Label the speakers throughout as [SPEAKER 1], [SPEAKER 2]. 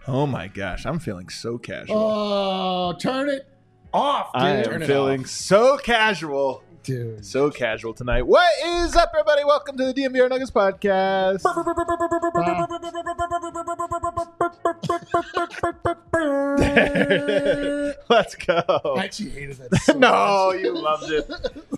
[SPEAKER 1] Oh my gosh, I'm feeling so casual.
[SPEAKER 2] Oh, turn it off, dude.
[SPEAKER 1] I am feeling so casual.
[SPEAKER 2] Dude.
[SPEAKER 1] So casual tonight. What is up, everybody? Welcome to the DMVR Nuggets podcast. Let's go.
[SPEAKER 2] I actually hated that so
[SPEAKER 1] No,
[SPEAKER 2] much.
[SPEAKER 1] you loved it.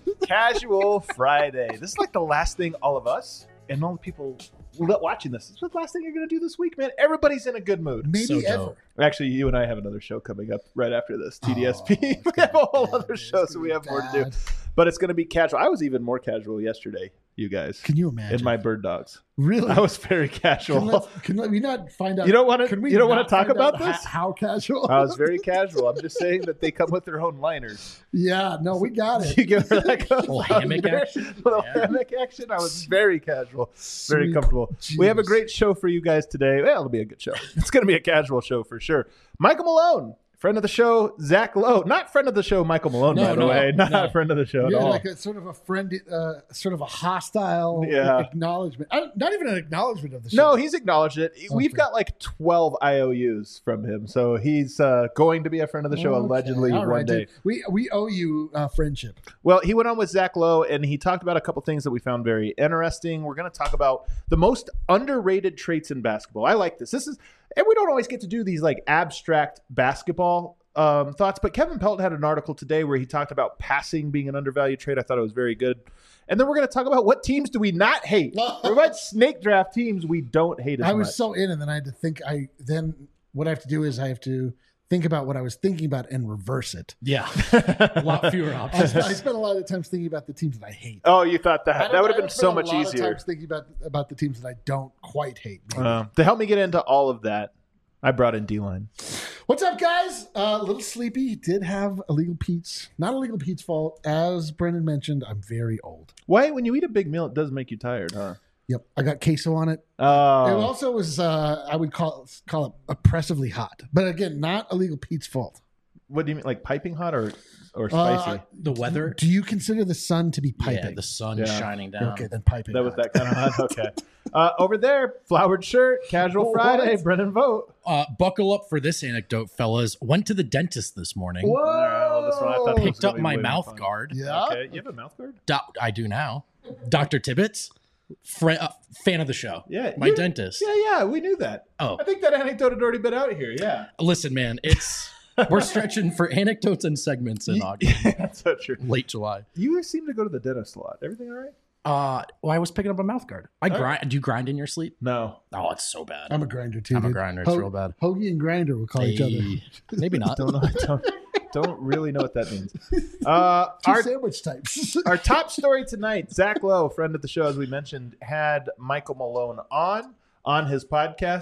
[SPEAKER 1] Casual Friday. This is like the last thing all of us and all the people watching this. This is the last thing you're going to do this week, man. Everybody's in a good mood.
[SPEAKER 2] Maybe
[SPEAKER 3] So
[SPEAKER 2] ever.
[SPEAKER 3] dope.
[SPEAKER 1] Actually, you and I have another show coming up right after this, TDSP.
[SPEAKER 2] it's
[SPEAKER 1] We
[SPEAKER 2] gonna
[SPEAKER 1] have a whole
[SPEAKER 2] be bad,
[SPEAKER 1] other
[SPEAKER 2] dude.
[SPEAKER 1] show,
[SPEAKER 2] It's
[SPEAKER 1] so
[SPEAKER 2] gonna
[SPEAKER 1] we
[SPEAKER 2] be
[SPEAKER 1] have more to do.
[SPEAKER 2] bad.
[SPEAKER 1] But it's going to be casual. I was even more casual yesterday, you guys,
[SPEAKER 2] Can you imagine?
[SPEAKER 1] in my bird dogs.
[SPEAKER 2] Really?
[SPEAKER 1] I was very casual.
[SPEAKER 2] Can we not find out?
[SPEAKER 1] You don't want to.
[SPEAKER 2] Can we
[SPEAKER 1] You don't want
[SPEAKER 2] not
[SPEAKER 1] to talk
[SPEAKER 2] find
[SPEAKER 1] about
[SPEAKER 2] out
[SPEAKER 1] this.
[SPEAKER 2] How casual?
[SPEAKER 1] I was very casual. I'm just saying that they come with their own liners.
[SPEAKER 2] Yeah, no, we got it.
[SPEAKER 1] You give her like a
[SPEAKER 3] Little hammock action?
[SPEAKER 1] Little
[SPEAKER 3] Yeah.
[SPEAKER 1] hammock action. I was very casual, very
[SPEAKER 2] Sweet
[SPEAKER 1] comfortable. We have a
[SPEAKER 2] Jesus.
[SPEAKER 1] great show for you guys today. Well, it'll be a good show. It's going to be a casual show for sure. Michael Malone, friend of the show, Zach Lowe. Not friend of the show, Michael Malone,
[SPEAKER 3] No,
[SPEAKER 1] by the
[SPEAKER 3] no,
[SPEAKER 1] way. Not
[SPEAKER 3] no.
[SPEAKER 1] friend of the show at
[SPEAKER 2] Yeah,
[SPEAKER 1] all.
[SPEAKER 2] like a sort of a friend, sort of a hostile
[SPEAKER 1] Yeah.
[SPEAKER 2] acknowledgement. Not even an acknowledgement of the show.
[SPEAKER 1] No, he's acknowledged it. We've got like 12 IOUs from him. So he's going to be a friend of the show
[SPEAKER 2] Okay.
[SPEAKER 1] allegedly
[SPEAKER 2] All
[SPEAKER 1] one
[SPEAKER 2] right,
[SPEAKER 1] day.
[SPEAKER 2] dude. We owe you friendship.
[SPEAKER 1] Well, he went on with Zach Lowe and he talked about a couple things that we found very interesting. We're going to talk about the most underrated traits in basketball. I like this. And we don't always get to do these like abstract basketball thoughts, but Kevin Pelton had an article today where he talked about passing being an undervalued trait. I thought it was very good. And then we're going to talk about what teams do we not hate? Or what snake draft teams we don't hate as
[SPEAKER 2] I
[SPEAKER 1] much.
[SPEAKER 2] was so in, and then I had to think. Then what I have to do is I have to think about what I was thinking about and reverse it.
[SPEAKER 3] Yeah. A lot fewer
[SPEAKER 2] I
[SPEAKER 3] options.
[SPEAKER 2] spent a lot of times thinking about the teams that I hate.
[SPEAKER 1] Oh, you thought
[SPEAKER 2] I
[SPEAKER 1] that?
[SPEAKER 2] don't-
[SPEAKER 1] That would
[SPEAKER 2] I
[SPEAKER 1] have been
[SPEAKER 2] don't
[SPEAKER 1] so
[SPEAKER 2] spend a
[SPEAKER 1] much
[SPEAKER 2] lot of
[SPEAKER 1] easier.
[SPEAKER 2] times thinking about the teams that I don't quite hate. maybe.
[SPEAKER 1] To help me get into all of that, I brought in D-Line.
[SPEAKER 2] What's up, guys? A little sleepy. Did have Illegal Pete's. Not Illegal Pete's fault. As Brendan mentioned, I'm very old.
[SPEAKER 1] Why, when you eat a big meal, it does make you tired, huh?
[SPEAKER 2] Yep, I got queso on it. It
[SPEAKER 1] Oh,
[SPEAKER 2] also was, I would call it oppressively hot. But again, not Illegal Pete's fault.
[SPEAKER 1] what do you mean, like piping hot or spicy?
[SPEAKER 3] The weather.
[SPEAKER 2] Do you consider the sun to be
[SPEAKER 3] Yeah,
[SPEAKER 2] piping?
[SPEAKER 3] the sun
[SPEAKER 1] Yeah.
[SPEAKER 3] shining down.
[SPEAKER 2] Okay, then piping.
[SPEAKER 1] That was
[SPEAKER 2] hot.
[SPEAKER 1] that kind of hot. Okay. Over there, flowered shirt, casual
[SPEAKER 2] What?
[SPEAKER 1] Friday. Brennan Vogt.
[SPEAKER 3] Buckle up for this anecdote, fellas. Went to the dentist this morning.
[SPEAKER 2] Whoa!
[SPEAKER 1] All right, well, this one I thought this was
[SPEAKER 3] Picked up
[SPEAKER 1] gonna be
[SPEAKER 3] my
[SPEAKER 1] way more
[SPEAKER 3] mouth
[SPEAKER 1] fun.
[SPEAKER 3] guard.
[SPEAKER 2] Yeah.
[SPEAKER 1] Okay, you have a mouth guard?
[SPEAKER 3] I do now. Dr. Tibbetts, fan of the show.
[SPEAKER 1] Yeah,
[SPEAKER 3] My dentist.
[SPEAKER 1] Yeah, we knew that.
[SPEAKER 3] Oh,
[SPEAKER 1] I think that anecdote had already been out here. Yeah,
[SPEAKER 3] listen, man. We're stretching for anecdotes and segments in August,
[SPEAKER 1] that's so true.
[SPEAKER 3] late July.
[SPEAKER 1] You seem to go to the dentist a lot. Everything all right?
[SPEAKER 3] Well, I was picking up a mouth guard. I grind. Do you grind in your sleep?
[SPEAKER 1] No.
[SPEAKER 3] Oh, it's so bad.
[SPEAKER 2] I'm a grinder too.
[SPEAKER 3] I'm a
[SPEAKER 2] dude.
[SPEAKER 3] grinder. It's real bad.
[SPEAKER 2] Hoagie and grinder will call each other.
[SPEAKER 3] Hey, maybe not.
[SPEAKER 1] Don't know. Don't really know what that means.
[SPEAKER 2] Two
[SPEAKER 1] Our
[SPEAKER 2] sandwich types.
[SPEAKER 1] Our top story tonight, Zach Lowe, friend of the show, as we mentioned, had Michael Malone on his podcast.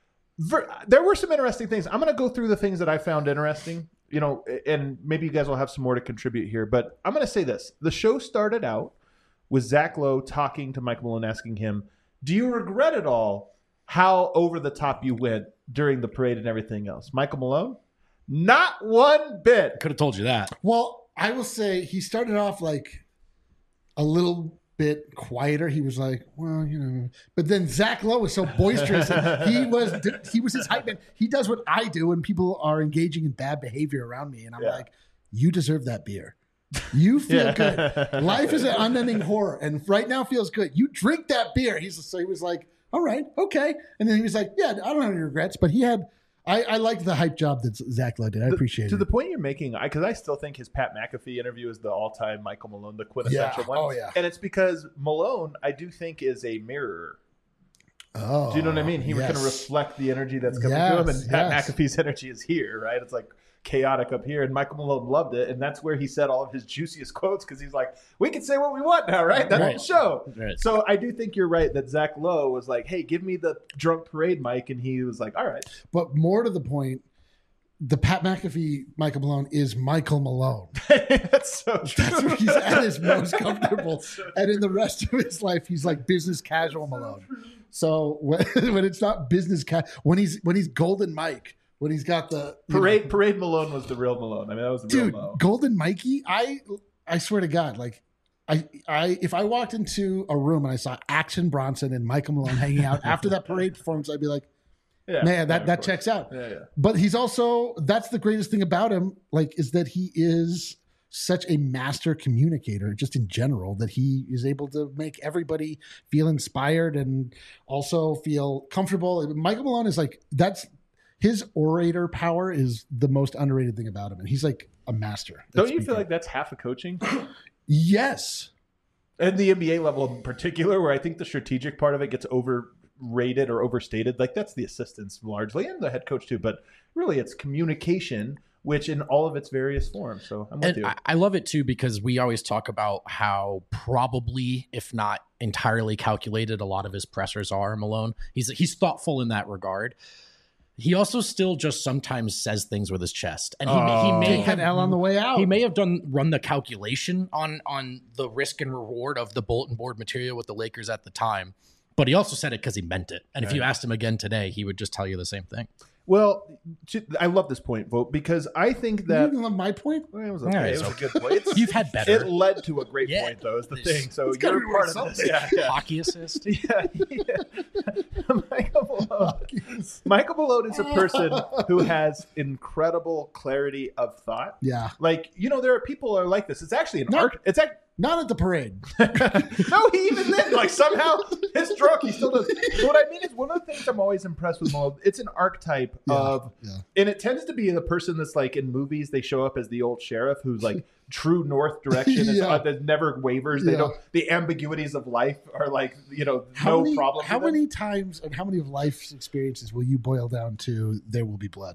[SPEAKER 1] There were some interesting things. I'm going to go through the things that I found interesting, and maybe you guys will have some more to contribute here. But I'm going to say this. The show started out with Zach Lowe talking to Michael Malone, asking him, do you regret at all how over the top you went during the parade and everything else? Michael Malone? Not one bit.
[SPEAKER 3] Could have told you that.
[SPEAKER 2] Well, I will say he started off like a little bit quieter. He was like, well, but then Zach Lowe was so boisterous. And he was his hype man. He does what I do when people are engaging in bad behavior around me. And I'm like, you deserve that beer. You feel good. Life is an unending horror. And right now feels good. You drink that beer. He was like, all right, okay. And then he was like, yeah, I don't have any regrets. But I liked the hype job that Zach Lowe did. I appreciate it.
[SPEAKER 1] To the point you're making, because I still think his Pat McAfee interview is the all-time Michael Malone, the quintessential one.
[SPEAKER 2] Oh, yeah.
[SPEAKER 1] And it's because Malone, I do think, is a mirror.
[SPEAKER 2] Oh,
[SPEAKER 1] Do you know what I mean? He
[SPEAKER 2] yes.
[SPEAKER 1] can reflect the energy that's coming to him, and Pat McAfee's energy is here, right? It's like chaotic up here, and Michael Malone loved it, and that's where he said all of his juiciest quotes, because he's like, we can say what we want now, right? That's
[SPEAKER 3] Right.
[SPEAKER 1] the show.
[SPEAKER 3] Right.
[SPEAKER 1] So I do think you're right that Zach Lowe was like, hey, give me the drunk parade mic, and he was like, all right.
[SPEAKER 2] But more to the point, the Pat McAfee Michael Malone is Michael Malone.
[SPEAKER 1] That's so true.
[SPEAKER 2] That's where he's at his most comfortable. And in the rest of his life, he's like business casual Malone. So when it's not business when he's Golden Mike, when he's got the
[SPEAKER 1] Parade Malone was the real Malone. I mean, that was the real
[SPEAKER 2] dude,
[SPEAKER 1] Malone.
[SPEAKER 2] Golden Mikey, I swear to God, like I if I walked into a room and I saw Action Bronson and Michael Malone hanging out after that parade performance, I'd be like, Man, that checks out.
[SPEAKER 1] Yeah.
[SPEAKER 2] But he's also, that's the greatest thing about him, like, is that he is such a master communicator just in general, that he is able to make everybody feel inspired and also feel comfortable. Michael Malone is like, that's his orator power is the most underrated thing about him. And he's like a master.
[SPEAKER 1] Don't you feel like that's half of coaching?
[SPEAKER 2] Yes.
[SPEAKER 1] At the NBA level in particular, where I think the strategic part of it gets overrated or overstated. Like that's the assistants largely and the head coach too. But really it's communication, which in all of its various forms. So I'm with you.
[SPEAKER 3] I love it too, because we always talk about how probably, if not entirely calculated, a lot of his pressers are. Malone. He's thoughtful in that regard. He also still just sometimes says things with his chest, and he may have
[SPEAKER 2] L on the way out.
[SPEAKER 3] He may have run the calculation on the risk and reward of the bulletin board material with the Lakers at the time, but he also said it because he meant it. And if you asked him again today, he would just tell you the same thing.
[SPEAKER 1] Well, I love this point, Vogt, because I think that...
[SPEAKER 2] You didn't love my point?
[SPEAKER 1] Well, it was okay. It was a good point.
[SPEAKER 3] You've had better.
[SPEAKER 1] It led to a great point, though, is the thing. So you're part of this. Yeah.
[SPEAKER 3] Hockey assist?
[SPEAKER 1] Yeah. Michael Malone is a person who has incredible clarity of thought.
[SPEAKER 2] Yeah.
[SPEAKER 1] Like, there are people who are like this. It's actually an art. It's actually...
[SPEAKER 2] Not at the parade.
[SPEAKER 1] No, he even then, like somehow his drunk, he still does. But what I mean is, one of the things I'm always impressed with Malone, it's an archetype of, and it tends to be the person that's like in movies, they show up as the old sheriff who's like true north direction, that never wavers. They don't. The ambiguities of life are like no problem.
[SPEAKER 2] How many times and how many of life's experiences will you boil down to "There will be blood"?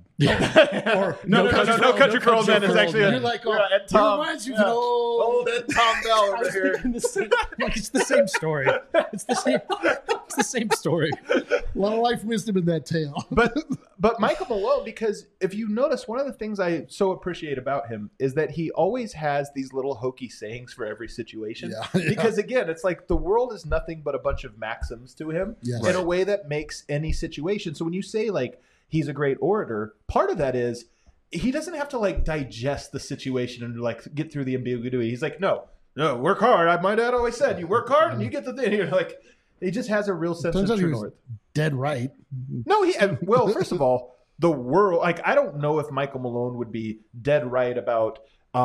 [SPEAKER 1] Or no country for old men is actually.
[SPEAKER 2] You're like,
[SPEAKER 1] Ed Tom.
[SPEAKER 2] Reminds you of an old
[SPEAKER 1] Ed Tom Bell over here.
[SPEAKER 3] It's the same story. It's the same story.
[SPEAKER 2] A lot of life wisdom in that tale.
[SPEAKER 1] But Michael Malone, because if you notice, one of the things I so appreciate about him is that he always has these little hokey sayings for every situation. Because again, it's like the world is nothing but a bunch of maxims to him in a way that makes any situation. So when you say like he's a great orator, part of that is he doesn't have to like digest the situation and like get through the ambiguity. He's like, no, work hard. My dad always said, you work hard and you get the thing. You're like, he just has a real sense of true north.
[SPEAKER 2] Dead right.
[SPEAKER 1] No, well, first of all, the world, like, I don't know if Michael Malone would be dead right about,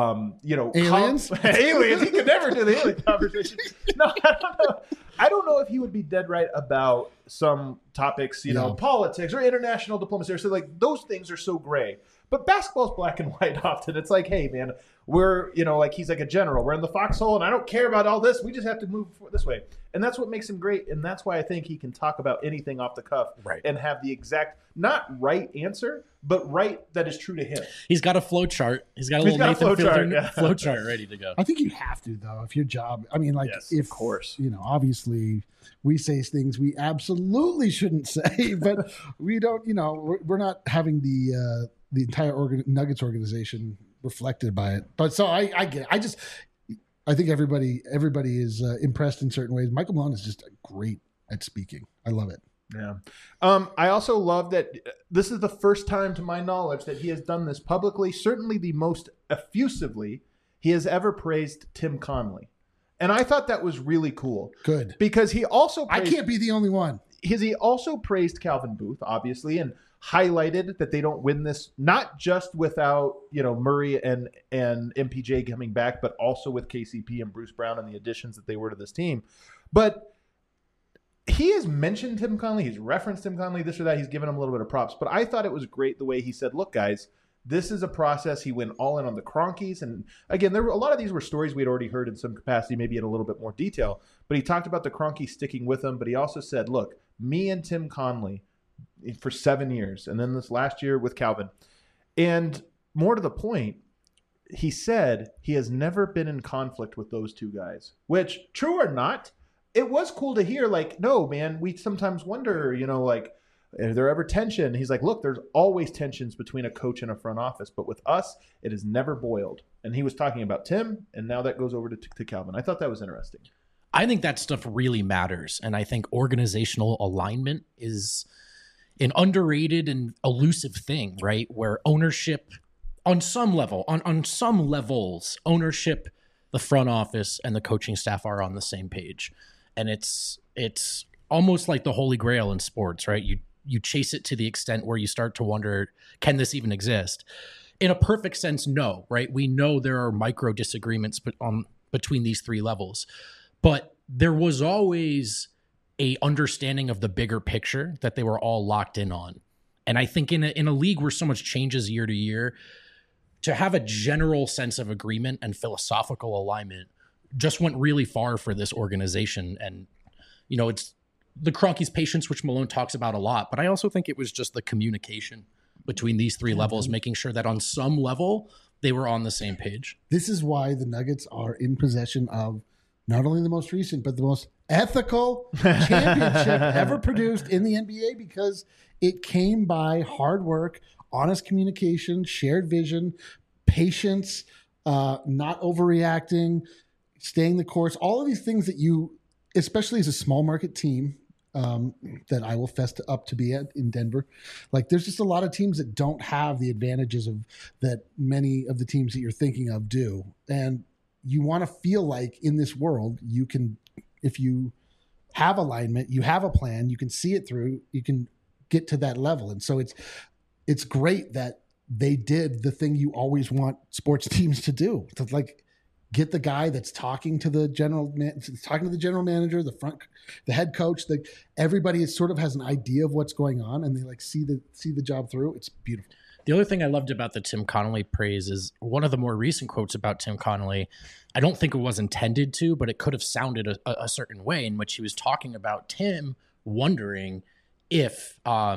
[SPEAKER 2] aliens?
[SPEAKER 1] Aliens. He could never do the alien conversation. No, I don't know. I don't know if he would be dead right about some topics, politics or international diplomacy. So like those things are so gray. But basketball's black and white often. It's like, hey, man, we're, like he's like a general. We're in the foxhole and I don't care about all this. We just have to move this way. And that's what makes him great. And that's why I think he can talk about anything off the cuff and have the exact, not right answer, but right that is true to him.
[SPEAKER 3] He's got a flow chart. He's got a little Nathan Fielder flow chart ready to go.
[SPEAKER 2] I think you have to, though, if your job, I mean, like,
[SPEAKER 1] of course,
[SPEAKER 2] obviously we say things we absolutely shouldn't say, but we don't, we're not having the entire Nuggets organization reflected by it. But so I get it. I think everybody is impressed in certain ways. Michael Malone is just great at speaking. I love it.
[SPEAKER 1] Yeah. I also love that this is the first time, to my knowledge, that he has done this publicly, certainly the most effusively he has ever praised Tim Connelly. And I thought that was really cool.
[SPEAKER 2] Good.
[SPEAKER 1] Because he also
[SPEAKER 2] I can't be the only one.
[SPEAKER 1] He also praised Calvin Booth, obviously, and highlighted that they don't win this, not just without, Murray and MPJ coming back, but also with KCP and Bruce Brown and the additions that they were to this team. But he has mentioned Tim Connelly. He's referenced Tim Connelly, this or that. He's given him a little bit of props. But I thought it was great the way he said, look, guys, this is a process. He went all in on the Cronkies. And again, a lot of these were stories we had already heard in some capacity, maybe in a little bit more detail. But he talked about the Cronkies sticking with him. But he also said, look, me and Tim Connelly for 7 years. And then this last year with Calvin. And more to the point, he said he has never been in conflict with those two guys, which, true or not, it was cool to hear. Like, no, man, we sometimes wonder, like, is there ever tension? He's like, look, there's always tensions between a coach and a front office, but with us, it has never boiled. And he was talking about Tim, and now that goes over to Calvin. I thought that was interesting.
[SPEAKER 3] I think that stuff really matters, and I think organizational alignment is an underrated and elusive thing, right? Where ownership, on some level, on some levels, ownership, the front office, and the coaching staff are on the same page. And it's almost like the holy grail in sports, right? you chase it to the extent where you start to wonder, can this even exist? In a perfect sense, no, right? We know there are micro disagreements between these three levels, but there was always a understanding of the bigger picture that they were all locked in on. And I think in a league where so much changes year to year, to have a general sense of agreement and philosophical alignment just went really far for this organization. And, you know, it's the Kroenke's patience, which Malone talks about a lot, but I also think it was just the communication between these three levels, making sure that on some level they were on the same page.
[SPEAKER 2] This is why the Nuggets are in possession of not only the most recent, but the most ethical championship ever produced in the NBA, because it came by hard work, honest communication, shared vision, patience, not overreacting, staying the course, all of these things that you, especially as a small market team, that I will fess up to be at in Denver. Like, there's just a lot of teams that don't have the advantages of that many of the teams that you're thinking of do. And you want to feel like in this world, you can, if you have alignment, you have a plan, you can see it through, you can get to that level. And so it's great that they did the thing you always want sports teams to do, to like get the guy that's talking to the general manager, the head coach, everybody is sort of has an idea of what's going on, and they like see the job through. It's beautiful.
[SPEAKER 3] The other thing I loved about the Tim Connolly praise is one of the more recent quotes about Tim Connolly. I don't think it was intended to, but it could have sounded a certain way, in which he was talking about Tim wondering if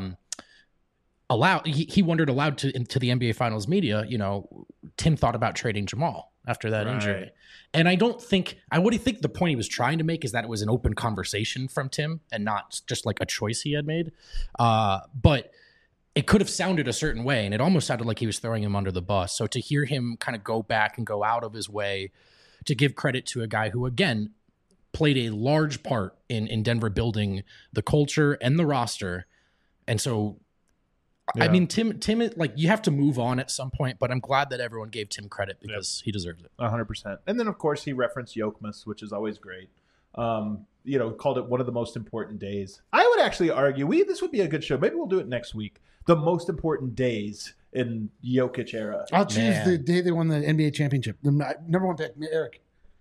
[SPEAKER 3] he wondered aloud to the NBA Finals media, you know, Tim thought about trading Jamal after that injury. And I think the point he was trying to make is that it was an open conversation from Tim and not just like a choice he had made. But it could have sounded a certain way, and it almost sounded like he was throwing him under the bus. So to hear him kind of go back and go out of his way to give credit to a guy who, again, played a large part in Denver building the culture and the roster. And so, yeah. I mean, Tim, like, you have to move on at some point, but I'm glad that everyone gave Tim credit because he deserves it.
[SPEAKER 1] 100%. And then, of course, he referenced Yokmas, which is always great. You know, called it one of the most important days. I would actually argue this would be a good show. Maybe we'll do it next week. The most important days in Jokic era.
[SPEAKER 2] I'll choose the day they won the NBA championship. The number one pick, Eric.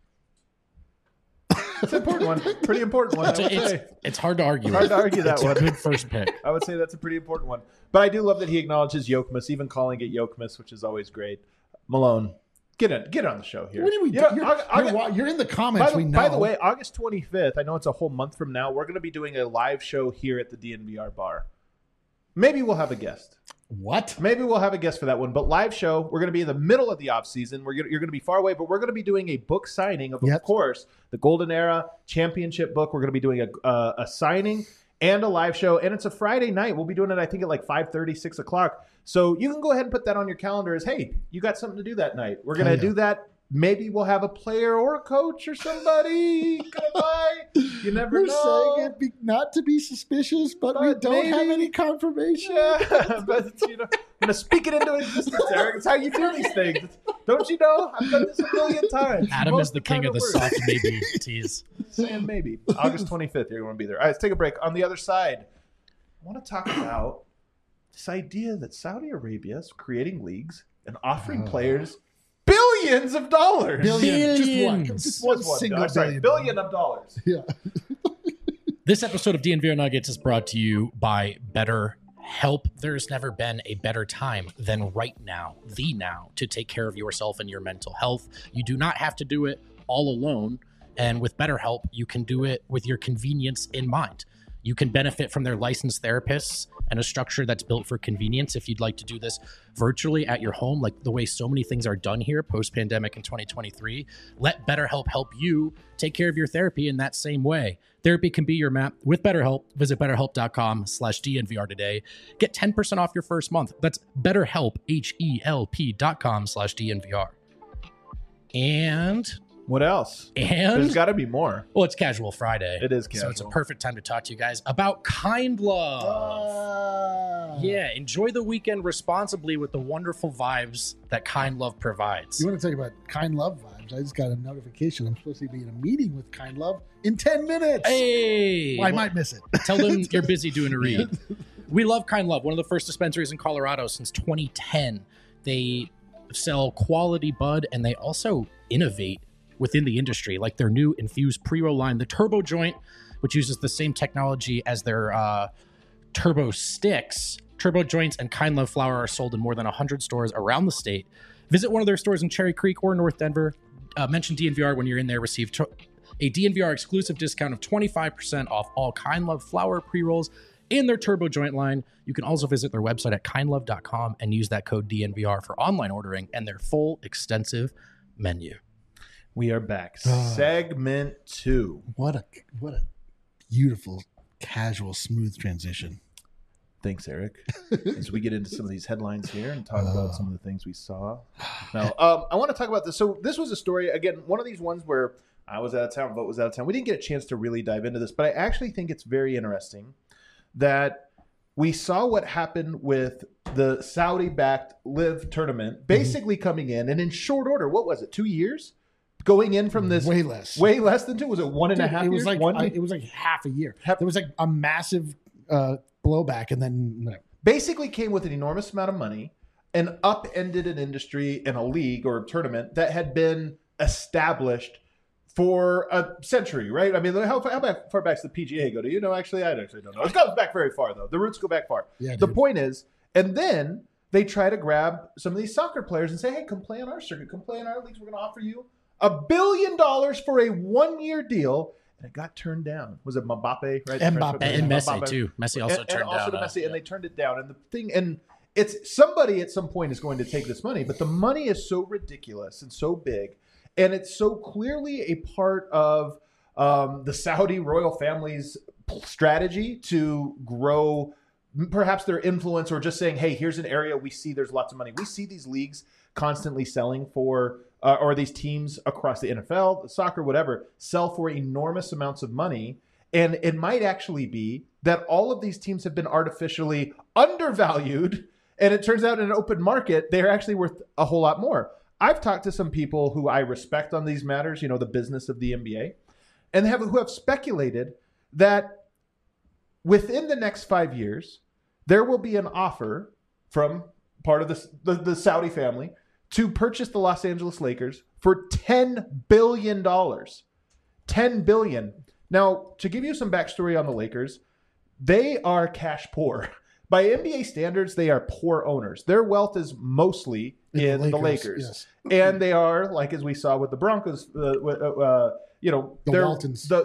[SPEAKER 1] It's an important one. Pretty important one.
[SPEAKER 3] It's hard to argue.
[SPEAKER 1] Hard to argue that one.
[SPEAKER 3] It's a good first pick.
[SPEAKER 1] I would say that's a pretty important one. But I do love that he acknowledges Yokmas, even calling it Yokmas, which is always great. Malone, get on the show here.
[SPEAKER 2] What do we do? You're in the comments.
[SPEAKER 1] By the way, August 25th, I know it's a whole month from now, we're going to be doing a live show here at the DNVR bar. Maybe we'll have a guest.
[SPEAKER 2] What?
[SPEAKER 1] Maybe we'll have a guest for that one. But live show, we're going to be in the middle of the off season. You're going to be far away, but we're going to be doing a book signing of course, the Golden Era Championship book. We're going to be doing a signing and a live show, and it's a Friday night. We'll be doing it, I think, at like 5:30, 6 o'clock. So you can go ahead and put that on your calendar as, hey, you got something to do that night. We're going to do that. Maybe we'll have a player or a coach or somebody come by. You never know.
[SPEAKER 2] We're saying it not to be suspicious, but we don't have any confirmation.
[SPEAKER 1] Yeah, but I'm going to speak it into existence, Eric. It's how you do these things. Don't you know? I've done this a million times.
[SPEAKER 3] Adam is the king of the soft maybe tease.
[SPEAKER 1] Saying maybe. August 25th, you're going to be there. All right, let's take a break. On the other side, I want to talk about this idea that Saudi Arabia is creating leagues and offering players billions of dollars.
[SPEAKER 2] Just one single
[SPEAKER 1] billion of dollars.
[SPEAKER 2] Yeah.
[SPEAKER 3] This episode of DNVR Nuggets is brought to you by BetterHelp. There's never been a better time than right now, to take care of yourself and your mental health. You do not have to do it all alone. And with BetterHelp, you can do it with your convenience in mind. You can benefit from their licensed therapists and a structure that's built for convenience if you'd like to do this virtually at your home, like the way so many things are done here post-pandemic in 2023. Let BetterHelp help you take care of your therapy in that same way. Therapy can be your map with BetterHelp. Visit BetterHelp.com/DNVR today. Get 10% off your first month. That's BetterHelp, HELP.com/DNVR. And
[SPEAKER 1] what else?
[SPEAKER 3] And
[SPEAKER 1] there's got to be more.
[SPEAKER 3] Well, it's Casual Friday.
[SPEAKER 1] It is casual.
[SPEAKER 3] So it's a perfect time to talk to you guys about Kind Love. Yeah, enjoy the weekend responsibly with the wonderful vibes that Kind Love provides.
[SPEAKER 2] You want to talk about Kind Love vibes? I just got a notification. I'm supposed to be in a meeting with Kind Love in 10 minutes.
[SPEAKER 3] Hey!
[SPEAKER 2] Well, I might miss it.
[SPEAKER 3] Tell them you're busy doing a read. We love Kind Love, one of the first dispensaries in Colorado since 2010. They sell quality bud, and they also innovate within the industry, like their new infused pre-roll line, the Turbo Joint, which uses the same technology as their Turbo Sticks. Turbo Joints and Kind Love flower are sold in more than 100 stores around the state. Visit one of their stores in Cherry Creek or North Denver. Mention DNVR when you're in there. Receive a DNVR exclusive discount of 25% off all Kind Love flower pre-rolls in their Turbo Joint line. You can also visit their website at kindlove.com and use that code DNVR for online ordering and their full extensive menu.
[SPEAKER 1] We are back. Segment 2.
[SPEAKER 2] What a beautiful, casual, smooth transition.
[SPEAKER 1] Thanks, Eric. As we get into some of these headlines here and talk about some of the things we saw. Now, I want to talk about this. So this was a story, again, one of these ones where I was out of town, Vogt was out of town. We didn't get a chance to really dive into this, but I actually think it's very interesting that we saw what happened with the Saudi-backed LIV tournament basically coming in, and in short order, what was it, 2 years? Going in from this
[SPEAKER 2] way less
[SPEAKER 1] than 2. Was it 1.5 years?
[SPEAKER 2] It was like half a year. There was like a massive blowback, and then
[SPEAKER 1] basically came with an enormous amount of money and upended an industry and a league or a tournament that had been established for a century, right? I mean, how far back does the PGA go? Do you know? Actually, I actually don't know. It goes back very far, though. The roots go back far.
[SPEAKER 2] Yeah,
[SPEAKER 1] the point is, and then they try to grab some of these soccer players and say, hey, come play on our circuit, come play in our leagues. We're going to offer you $1 billion for a 1-year deal. And it got turned down. Was it Mbappe, right?
[SPEAKER 3] And Messi, too. Messi also turned down.
[SPEAKER 1] Messi, and they turned it down. And the thing, and it's somebody at some point is going to take this money, but the money is so ridiculous and so big. And it's so clearly a part of the Saudi royal family's strategy to grow perhaps their influence, or just saying, hey, here's an area we see there's lots of money. We see these leagues constantly selling for, or these teams across the NFL, soccer, whatever, sell for enormous amounts of money. And it might actually be that all of these teams have been artificially undervalued. And it turns out in an open market, they're actually worth a whole lot more. I've talked to some people who I respect on these matters, you know, the business of the NBA, and who have speculated that within the next 5 years, there will be an offer from part of the Saudi family to purchase the Los Angeles Lakers for $10 billion. $10 billion. Now, to give you some backstory on the Lakers, they are cash poor. By NBA standards, they are poor owners. Their wealth is mostly in the Lakers.
[SPEAKER 2] Yes.
[SPEAKER 1] And they are, like as we saw with the Broncos, the
[SPEAKER 2] Waltons.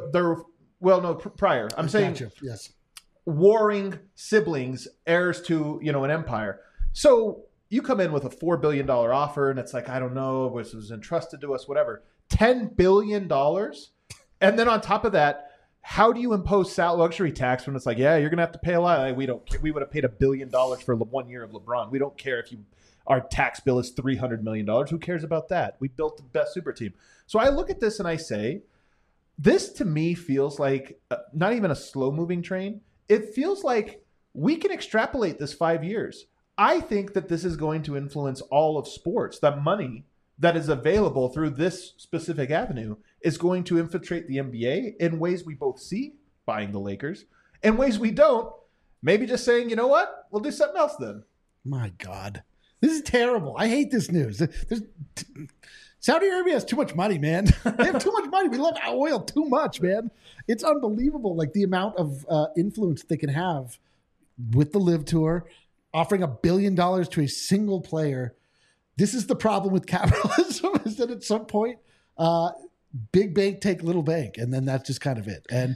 [SPEAKER 1] Prior. I'm saying
[SPEAKER 2] yes.
[SPEAKER 1] Warring siblings, heirs to, an empire. So you come in with a $4 billion offer, and it's like, I don't know, this was entrusted to us, whatever. $10 billion? And then on top of that, how do you impose luxury tax when it's like, yeah, you're going to have to pay a lot? Like, we would have paid $1 billion for 1 year of LeBron. We don't care if our tax bill is $300 million. Who cares about that? We built the best super team. So I look at this and I say, this to me feels like not even a slow moving train. It feels like we can extrapolate this 5 years. I think that this is going to influence all of sports. The money that is available through this specific avenue is going to infiltrate the NBA in ways we both see, buying the Lakers, and ways we don't, maybe just saying, you know what, we'll do something else then.
[SPEAKER 2] My God. This is terrible. I hate this news. Saudi Arabia has too much money, man. They have too much money. We love oil too much, man. It's unbelievable, like the amount of influence they can have with the LIV Tour, offering $1 billion to a single player. This is the problem with capitalism, is that at some point, big bank take little bank, and then that's just kind of it. And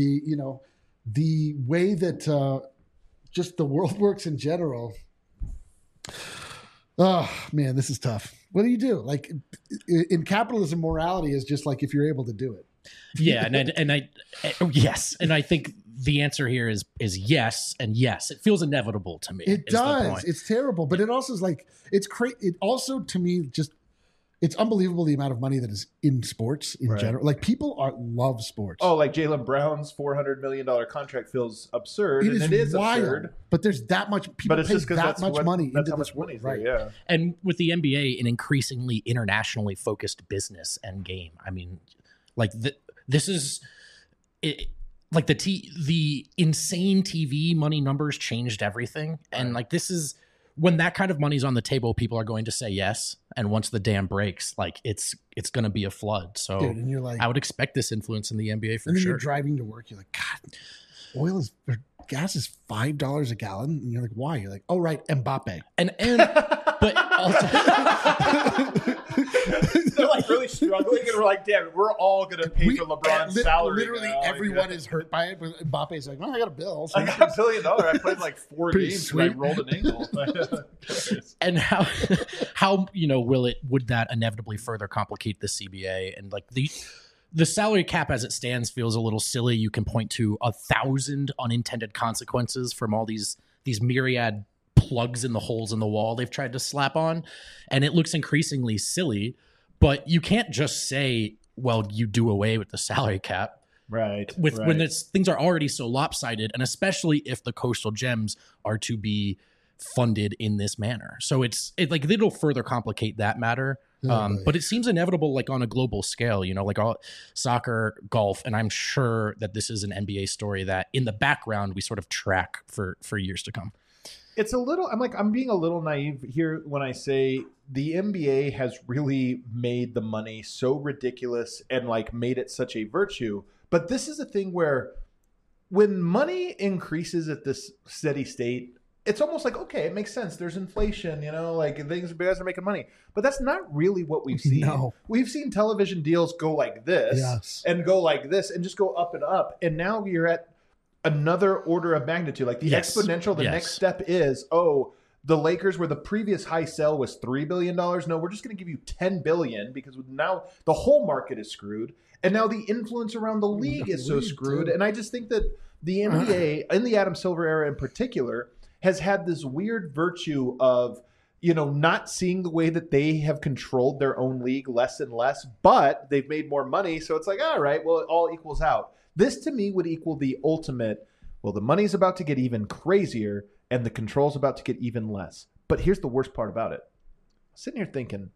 [SPEAKER 2] the way that just the world works in general. Oh man, this is tough. What do you do? Like in capitalism, morality is just like if you're able to do it.
[SPEAKER 3] Yeah, yes, and I think the answer here is yes, and yes, it feels inevitable to me.
[SPEAKER 2] It does. It's terrible, but it also is like it's crazy. It also to me just it's unbelievable the amount of money that is in sports in general. Like people love sports.
[SPEAKER 1] Oh, like Jaylen Brown's $400 million contract feels absurd.
[SPEAKER 2] It is wild, absurd. But there's that much people pay that much money into this sport.
[SPEAKER 1] Right. Yeah.
[SPEAKER 3] And with the NBA, an increasingly internationally focused business and game. I mean, like this is it. like the insane TV money numbers changed everything. And like, this is when that kind of money's on the table, people are going to say yes. And once the dam breaks, like it's going to be a flood. So
[SPEAKER 2] Dude, and you're like,
[SPEAKER 3] I would expect this influence in the NBA for
[SPEAKER 2] and then
[SPEAKER 3] sure.
[SPEAKER 2] you're driving to work. You're like, God, gas is $5 a gallon. And you're like, why? You're like, oh, right. Mbappe.
[SPEAKER 3] And but also
[SPEAKER 1] They're like really struggling, and we're like, damn, we're all gonna pay for LeBron's salary.
[SPEAKER 2] Literally
[SPEAKER 1] now.
[SPEAKER 2] everyone is hurt by it, but Mbappe's like, well, I got a bill. So
[SPEAKER 1] I got $1 billion. I played like 4
[SPEAKER 2] Pretty
[SPEAKER 1] games
[SPEAKER 2] sweet.
[SPEAKER 1] and I rolled an ankle.
[SPEAKER 3] and how would that inevitably further complicate the CBA? And like the salary cap as it stands feels a little silly. You can point to 1,000 unintended consequences from all these myriad plugs in the holes in the wall they've tried to slap on, and it looks increasingly silly. But you can't just say, well, you do away with the salary cap.
[SPEAKER 1] Right.
[SPEAKER 3] When things are already so lopsided, and especially if the Coastal Gems are to be funded in this manner. So it'll further complicate that matter. But it seems inevitable, like on a global scale, like all soccer, golf, and I'm sure that this is an NBA story that in the background we sort of track for years to come.
[SPEAKER 1] It's a little, I'm being a little naive here when I say the NBA has really made the money so ridiculous and like made it such a virtue. But this is a thing where when money increases at this steady state, it's almost like, okay, it makes sense. There's inflation, like guys are making money. But that's not really what we've seen.
[SPEAKER 2] No.
[SPEAKER 1] We've seen television deals go like this and go like this and just go up and up. And now you're at another order of magnitude, like the exponential. The next step is, the Lakers, where the previous high sell was $3 billion. No, we're just going to give you $10 billion because now the whole market is screwed. And now the influence around the league is so screwed. And I just think that the NBA, in the Adam Silver era in particular, has had this weird virtue of, not seeing the way that they have controlled their own league less and less, but they've made more money. So it's like, all right, well, it all equals out. This to me would equal the ultimate, well, the money's about to get even crazier and the control's about to get even less. But here's the worst part about it. I'm sitting here thinking,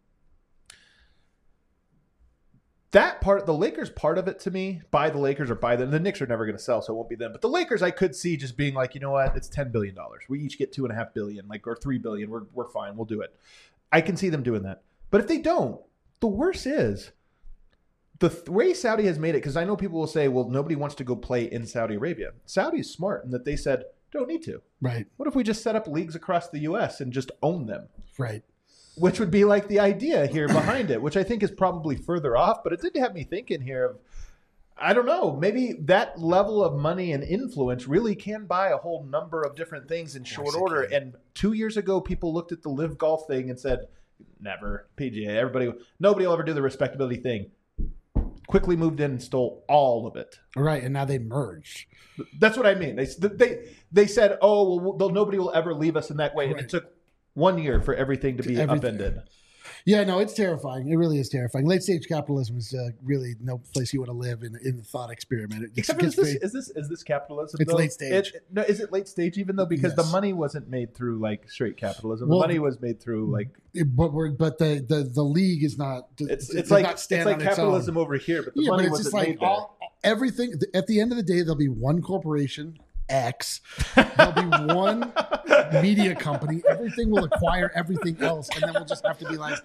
[SPEAKER 1] that part, the Lakers part of it to me, buy the Lakers or buy them. The Knicks are never going to sell, so it won't be them. But the Lakers, I could see just being like, you know what, it's $10 billion. We each get $2.5 billion, or $3 billion. We're fine. We'll do it. I can see them doing that. But if they don't, the worst is the way Saudi has made it, because I know people will say, well, nobody wants to go play in Saudi Arabia. Saudi's smart in that they said, don't need to.
[SPEAKER 2] Right.
[SPEAKER 1] What if we just set up leagues across the U.S. and just own them?
[SPEAKER 2] Right.
[SPEAKER 1] Which would be like the idea here behind it, which I think is probably further off. But it did have me thinking here of, I don't know, maybe that level of money and influence really can buy a whole number of different things in short order. And 2 years ago, people looked at the Live Golf thing and said, never, PGA, nobody will ever do the respectability thing. Quickly moved in and stole all of it.
[SPEAKER 2] Right, and now they merged.
[SPEAKER 1] That's what I mean. They said, oh, well, nobody will ever leave us in that way. And it took 1 year for everything to be upended.
[SPEAKER 2] Yeah, no, it's terrifying. It really is terrifying. Late stage capitalism is really no place you want to live in the thought experiment.
[SPEAKER 1] Except for is this capitalism?
[SPEAKER 2] It's late stage.
[SPEAKER 1] No, is it late stage even though? Because the money wasn't made through like straight capitalism. The money was made through like.
[SPEAKER 2] But the league is not.
[SPEAKER 1] It's like capitalism over here, but the money wasn't made there.
[SPEAKER 2] Everything at the end of the day, there'll be one corporation. X. There'll be one media company. Everything will acquire everything else, and then we'll just have to be like,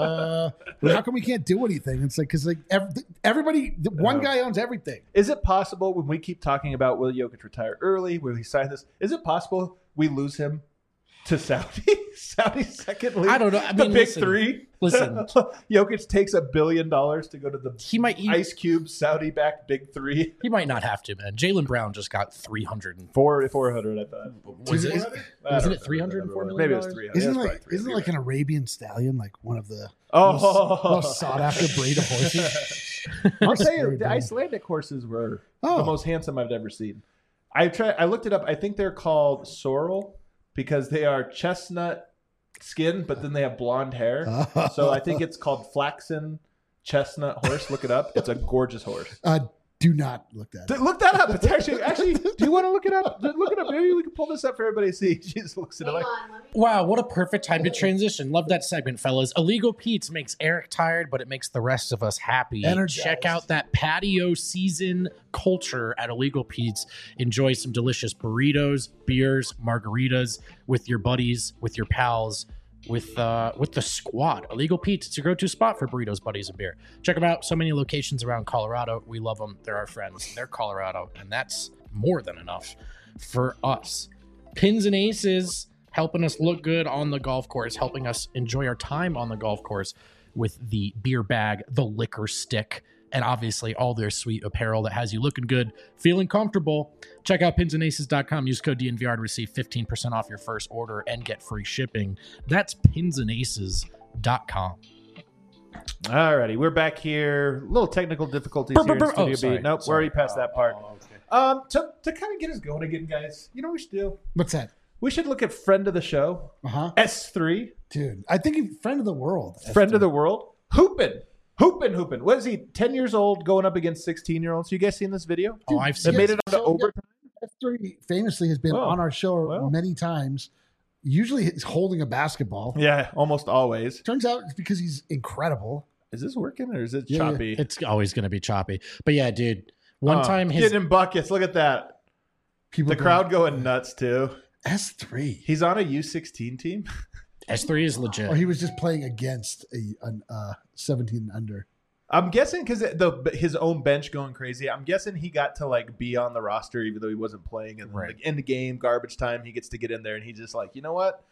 [SPEAKER 2] how come we can't do anything? It's like because everybody, one guy owns everything.
[SPEAKER 1] Is it possible when we keep talking about will Jokic retire early? Will he sign this? Is it possible we lose him to Saudi? Saudi's second league.
[SPEAKER 3] I don't know. I mean,
[SPEAKER 1] Big Three.
[SPEAKER 3] Listen,
[SPEAKER 1] Jokic takes $1 billion to go to the Ice Cube Saudi-backed Big Three.
[SPEAKER 3] He might not have to, man. Jaylen Brown just got 400.
[SPEAKER 1] 400, I thought.
[SPEAKER 3] Wasn't it 304 million?
[SPEAKER 1] Maybe it was 300.
[SPEAKER 2] Isn't it like an Arabian stallion, like one of the most sought after breed of horses?
[SPEAKER 1] I'll tell you, the Icelandic horses were the most handsome I've ever seen. I looked it up. I think they're called sorrel because they are chestnut skin, but then they have blonde hair. So I think it's called flaxen chestnut horse. Look it up. It's a gorgeous horse.
[SPEAKER 2] Do not look that up.
[SPEAKER 1] Look that up. It's actually. Do you want to look it up? Look it up. Maybe we can pull this up for everybody to see. She just looks at it like.
[SPEAKER 3] Wow, what a perfect time to transition. Love that segment, fellas. Illegal Pete's makes Eric tired, but it makes the rest of us happy.
[SPEAKER 2] Energized.
[SPEAKER 3] Check out that patio season culture at Illegal Pete's. Enjoy some delicious burritos, beers, margaritas with your buddies, with your pals, with the squad. Illegal Pete's, it's your go-to spot for burritos, buddies, and beer. Check them out. So many locations around Colorado. We love them. They're our friends. They're Colorado, and that's more than enough for us. Pins and Aces, helping us look good on the golf course, helping us enjoy our time on the golf course with the beer bag, the liquor stick, and obviously all their sweet apparel that has you looking good, feeling comfortable. Check out pinsandaces.com. Use code DNVR to receive 15% off your first order and get free shipping. That's pinsandaces.com.
[SPEAKER 1] Alrighty, we're back here. A little technical difficulties here in Studio B. Nope, we're already past that part. To kind of get us going again, guys, you know what we should do?
[SPEAKER 2] What's that?
[SPEAKER 1] We should look at friend of the show, S3.
[SPEAKER 2] Dude, I think he's friend of the world.
[SPEAKER 1] Friend of the world. Hoopin'. What is he, 10 years old, going up against 16-year-olds? You guys seen this video?
[SPEAKER 3] Oh, I've
[SPEAKER 1] That
[SPEAKER 3] seen
[SPEAKER 1] made
[SPEAKER 3] it.
[SPEAKER 1] it onto overtime?
[SPEAKER 2] S3 famously has been on our show many times. Usually he's holding a basketball.
[SPEAKER 1] Yeah, almost always.
[SPEAKER 2] Turns out it's because he's incredible.
[SPEAKER 1] Is this working or is it choppy?
[SPEAKER 3] It's always going to be choppy. But yeah, dude, one time his...
[SPEAKER 1] Getting in buckets. Look at that. The crowd going nuts, too.
[SPEAKER 2] S3.
[SPEAKER 1] He's on a U16 team.
[SPEAKER 3] S3 is legit.
[SPEAKER 2] Or he was just playing against a 17 under.
[SPEAKER 1] I'm guessing because his own bench going crazy. I'm guessing he got to like be on the roster even though he wasn't playing. And like in the game, garbage time, he gets to get in there and he's just like, you know what?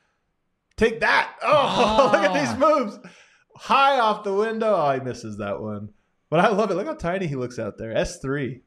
[SPEAKER 1] Take that! Oh, look at these moves! High off the window. Oh, he misses that one. But I love it. Look how tiny he looks out there. S3,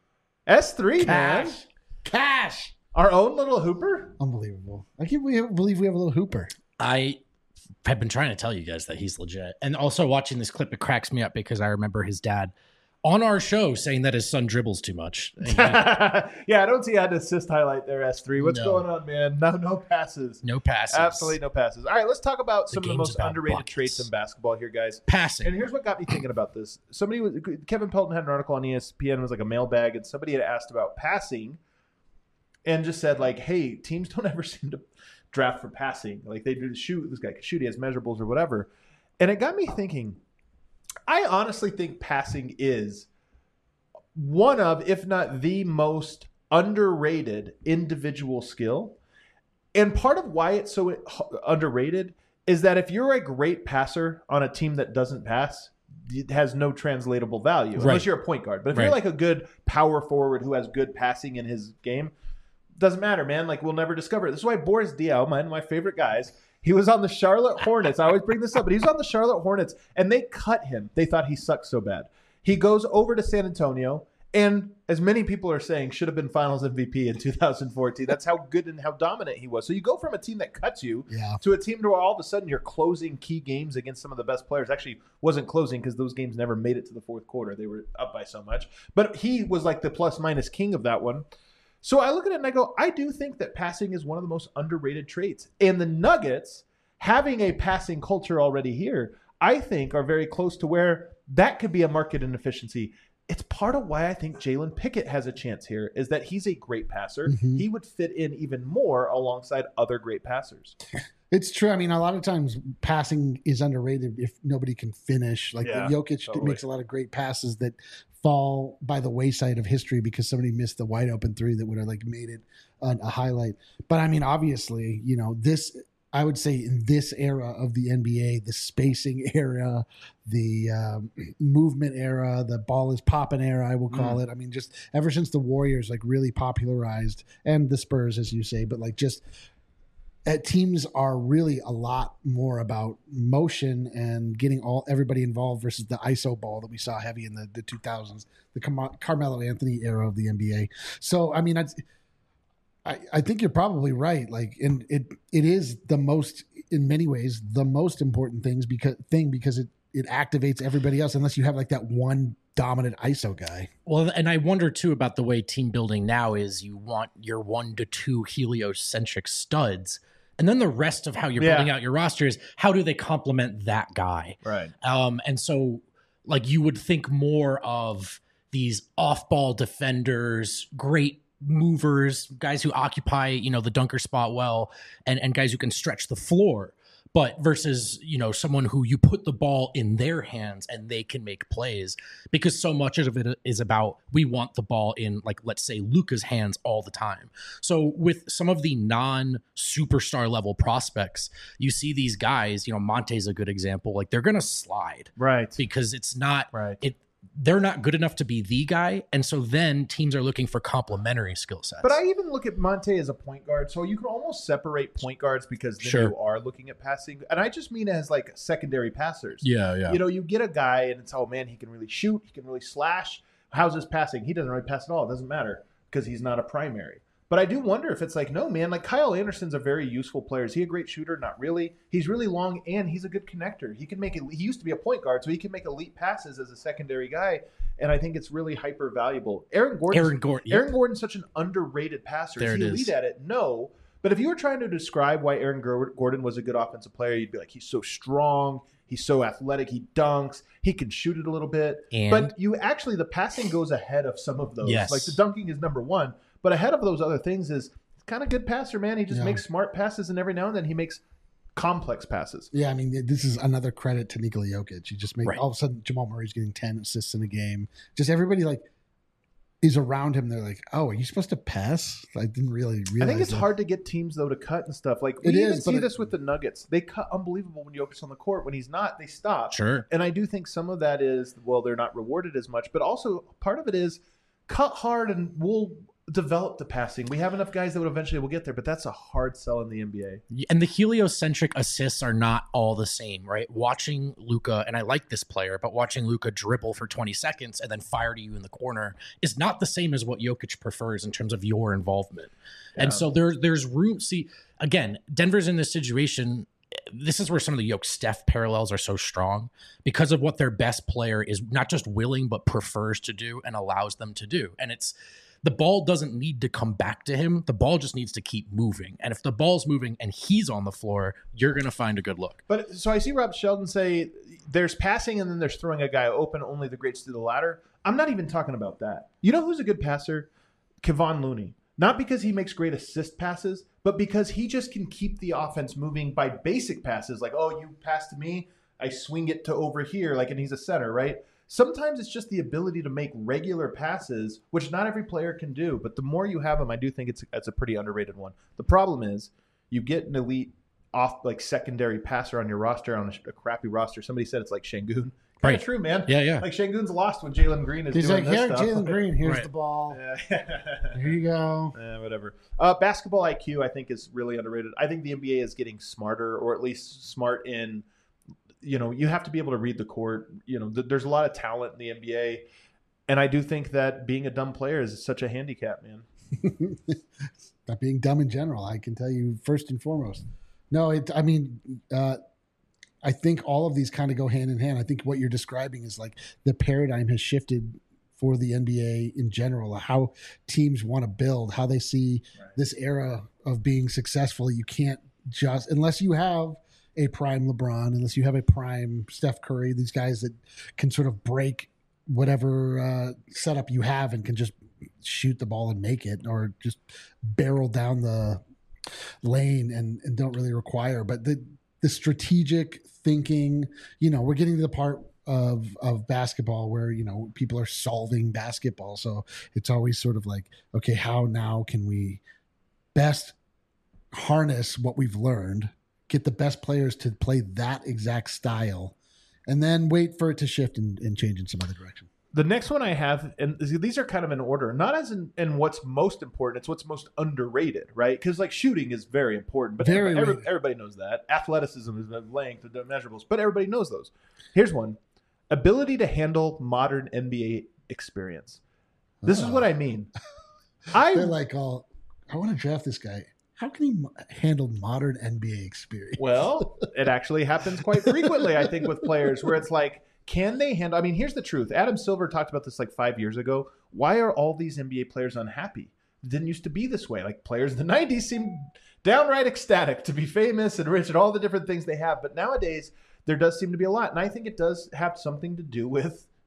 [SPEAKER 1] man.
[SPEAKER 2] Cash.
[SPEAKER 1] Our own little hooper.
[SPEAKER 2] Unbelievable. I can't believe we have a little hooper.
[SPEAKER 3] I have been trying to tell you guys that he's legit. And also watching this clip, it cracks me up because I remember his dad on our show saying that his son dribbles too much.
[SPEAKER 1] Yeah, I don't see an assist highlight there, S3. What's going on, man? No passes.
[SPEAKER 3] No passes.
[SPEAKER 1] Absolutely no passes. All right, let's talk about some of the most underrated traits in basketball here, guys.
[SPEAKER 3] Passing.
[SPEAKER 1] And here's what got me thinking about this. Kevin Pelton had an article on ESPN. It was like a mailbag, and somebody had asked about passing and just said, like, hey, teams don't ever seem to draft for passing. Like, they do shoot. This guy can shoot. He has measurables or whatever. And it got me thinking, I honestly think passing is one of, if not the most underrated individual skill. And part of why it's so underrated is that if you're a great passer on a team that doesn't pass, it has no translatable value unless you're a point guard. But if you're like a good power forward who has good passing in his game, doesn't matter, man. Like, we'll never discover it. This is why Boris Diaw, my favorite guys, he was on the Charlotte Hornets. I always bring this up, but he was on the Charlotte Hornets, and they cut him. They thought he sucked so bad. He goes over to San Antonio, and as many people are saying, should have been Finals MVP in 2014. That's how good and how dominant he was. So you go from a team that cuts you to a team where all of a sudden you're closing key games against some of the best players. Actually, wasn't closing because those games never made it to the fourth quarter. They were up by so much. But he was like the plus-minus king of that one. So I look at it and I go, I do think that passing is one of the most underrated traits. And the Nuggets, having a passing culture already here, I think are very close to where that could be a market inefficiency. It's part of why I think Jalen Pickett has a chance here, is that he's a great passer. Mm-hmm. He would fit in even more alongside other great passers.
[SPEAKER 2] It's true. I mean, a lot of times passing is underrated if nobody can finish. Like Jokic makes a lot of great passes that fall by the wayside of history because somebody missed the wide open three that would have like made it a highlight. But I mean, obviously, you know, this, I would say in this era of the NBA, the spacing era, the movement era, the ball is popping era, I will call it. I mean, just ever since the Warriors like really popularized, and the Spurs, as you say, but like just teams are really a lot more about motion and getting everybody involved versus the ISO ball that we saw heavy in the 2000s, the Carmelo Anthony era of the NBA. So, I mean, I think you're probably right. Like, and it is the most, in many ways, the most important because it activates everybody else unless you have like that one dominant ISO guy.
[SPEAKER 3] Well, and I wonder too about the way team building now is you want your 1 to 2 heliocentric studs. And then the rest of how you're building out your roster is how do they complement that guy?
[SPEAKER 1] Right.
[SPEAKER 3] And so like you would think more of these off-ball defenders, great movers, guys who occupy, the dunker spot well, and guys who can stretch the floor. But versus, someone who you put the ball in their hands and they can make plays, because so much of it is about, we want the ball in, like, let's say Luka's hands all the time. So with some of the non-superstar level prospects, you see these guys, Monte's a good example, like they're going to slide.
[SPEAKER 1] Right.
[SPEAKER 3] Because it's not,
[SPEAKER 1] right.
[SPEAKER 3] They're not good enough to be the guy. And so then teams are looking for complementary skill sets.
[SPEAKER 1] But I even look at Monte as a point guard. So you can almost separate point guards because then you are looking at passing. And I just mean as like secondary passers.
[SPEAKER 3] Yeah.
[SPEAKER 1] You get a guy and it's, oh man, he can really shoot. He can really slash. How's his passing? He doesn't really pass at all. It doesn't matter because he's not a primary. But I do wonder if it's like, no, man, like Kyle Anderson's a very useful player. Is he a great shooter? Not really. He's really long and he's a good connector. He can make it. He used to be a point guard, so he can make elite passes as a secondary guy. And I think it's really hyper valuable. Aaron Gordon's such an underrated passer. Is he elite at it? No. But if you were trying to describe why Aaron Gordon was a good offensive player, you'd be like, he's so strong. He's so athletic. He dunks. He can shoot it a little bit. But the passing goes ahead of some of those.
[SPEAKER 3] Yes.
[SPEAKER 1] Like the dunking is number one. But ahead of those other things is kind of good passer, man. He just makes smart passes, and every now and then he makes complex passes.
[SPEAKER 2] Yeah, I mean, this is another credit to Nikola Jokic. You just make all of a sudden Jamal Murray's getting 10 assists in a game. Just everybody like is around him. They're like, "Oh, are you supposed to pass?" I didn't really realize.
[SPEAKER 1] I think it's hard to get teams though to cut and stuff. Like we even see this with the Nuggets. They cut unbelievable when Jokic's on the court. When he's not, they stop.
[SPEAKER 3] Sure.
[SPEAKER 1] And I do think some of that is they're not rewarded as much, but also part of it is cut hard and we'll develop the passing. We have enough guys that would eventually will get there, but that's a hard sell in the NBA.
[SPEAKER 3] And the heliocentric assists are not all the same, right? Watching Luka, and I like this player, but watching Luka dribble for 20 seconds and then fire to you in the corner is not the same as what Jokic prefers in terms of your involvement. Yeah. And so there's room. See, again, Denver's in this situation. This is where some of the Jokic-Steph parallels are so strong because of what their best player is not just willing, but prefers to do and allows them to do. And the ball doesn't need to come back to him. The ball just needs to keep moving. And if the ball's moving and he's on the floor, you're going to find a good look.
[SPEAKER 1] But so I see Rob Sheldon say there's passing and then there's throwing a guy open. Only the greats do the latter. I'm not even talking about that. You know who's a good passer? Kevon Looney. Not because he makes great assist passes, but because he just can keep the offense moving by basic passes. Like, oh, you pass to me, I swing it to over here. Like, and he's a center, right? Sometimes it's just the ability to make regular passes, which not every player can do. But the more you have them, I do think it's a pretty underrated one. The problem is you get an elite secondary passer on your roster on a crappy roster. Somebody said it's like Şengün. Kind of true, man.
[SPEAKER 3] Yeah.
[SPEAKER 1] Like Şengün's lost when Jalen Green is doing this stuff.
[SPEAKER 2] Jalen Green, here's the ball. Here you go.
[SPEAKER 1] Whatever. Basketball IQ, I think, is really underrated. I think the NBA is getting smarter, or at least smart in – you have to be able to read the court. There's a lot of talent in the NBA. And I do think that being a dumb player is such a handicap, man.
[SPEAKER 2] Not being dumb in general, I can tell you first and foremost. No, I think all of these kind of go hand in hand. I think what you're describing is like the paradigm has shifted for the NBA in general, how teams want to build, how they see this era of being successful. You can't just, unless you have a prime LeBron, unless you have a prime Steph Curry, these guys that can sort of break whatever setup you have and can just shoot the ball and make it, or just barrel down the lane and don't really require. But the strategic thinking, we're getting to the part of basketball where, people are solving basketball. So it's always sort of like, okay, how now can we best harness what we've learned, get the best players to play that exact style, and then wait for it to shift and change in some other direction.
[SPEAKER 1] The next one I have, and these are kind of in order, not as in what's most important, it's what's most underrated, right? Because like shooting is very important, but everybody knows that. Athleticism is the length, the measurables, but everybody knows those. Here's one. Ability to handle modern NBA experience. This is what I mean.
[SPEAKER 2] They're like, I want to draft this guy. How can he handle modern NBA experience?
[SPEAKER 1] Well, it actually happens quite frequently, I think, with players where it's like, can they handle? I mean, here's the truth. Adam Silver talked about this like 5 years ago. Why are all these NBA players unhappy? It didn't used to be this way. Like players in the 90s seemed downright ecstatic to be famous and rich and all the different things they have. But nowadays, there does seem to be a lot. And I think it does have something to do with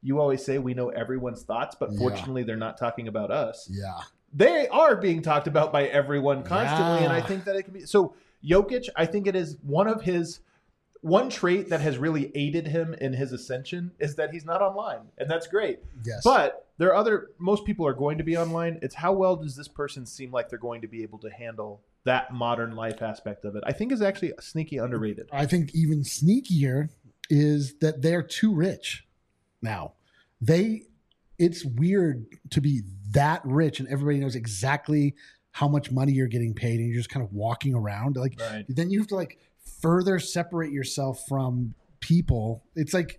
[SPEAKER 1] you always say we know everyone's thoughts, but
[SPEAKER 2] Yeah.
[SPEAKER 1] fortunately they're not talking about us.
[SPEAKER 2] Yeah.
[SPEAKER 1] They are being talked about by everyone constantly, and I
[SPEAKER 2] Yeah.
[SPEAKER 1] think that it can be so. Jokic, I think it is one trait that has really aided him in his ascension is that he's not online, and that's great.
[SPEAKER 2] Yes.
[SPEAKER 1] But most people are going to be online. It's how well does this person seem like they're going to be able to handle that modern life aspect of it? I think is actually sneaky underrated.
[SPEAKER 2] I think even sneakier is that they're too rich now. It's weird to be that rich and everybody knows exactly how much money you're getting paid and you're just kind of walking around. Like
[SPEAKER 1] Right.
[SPEAKER 2] then you have to like further separate yourself from people. It's like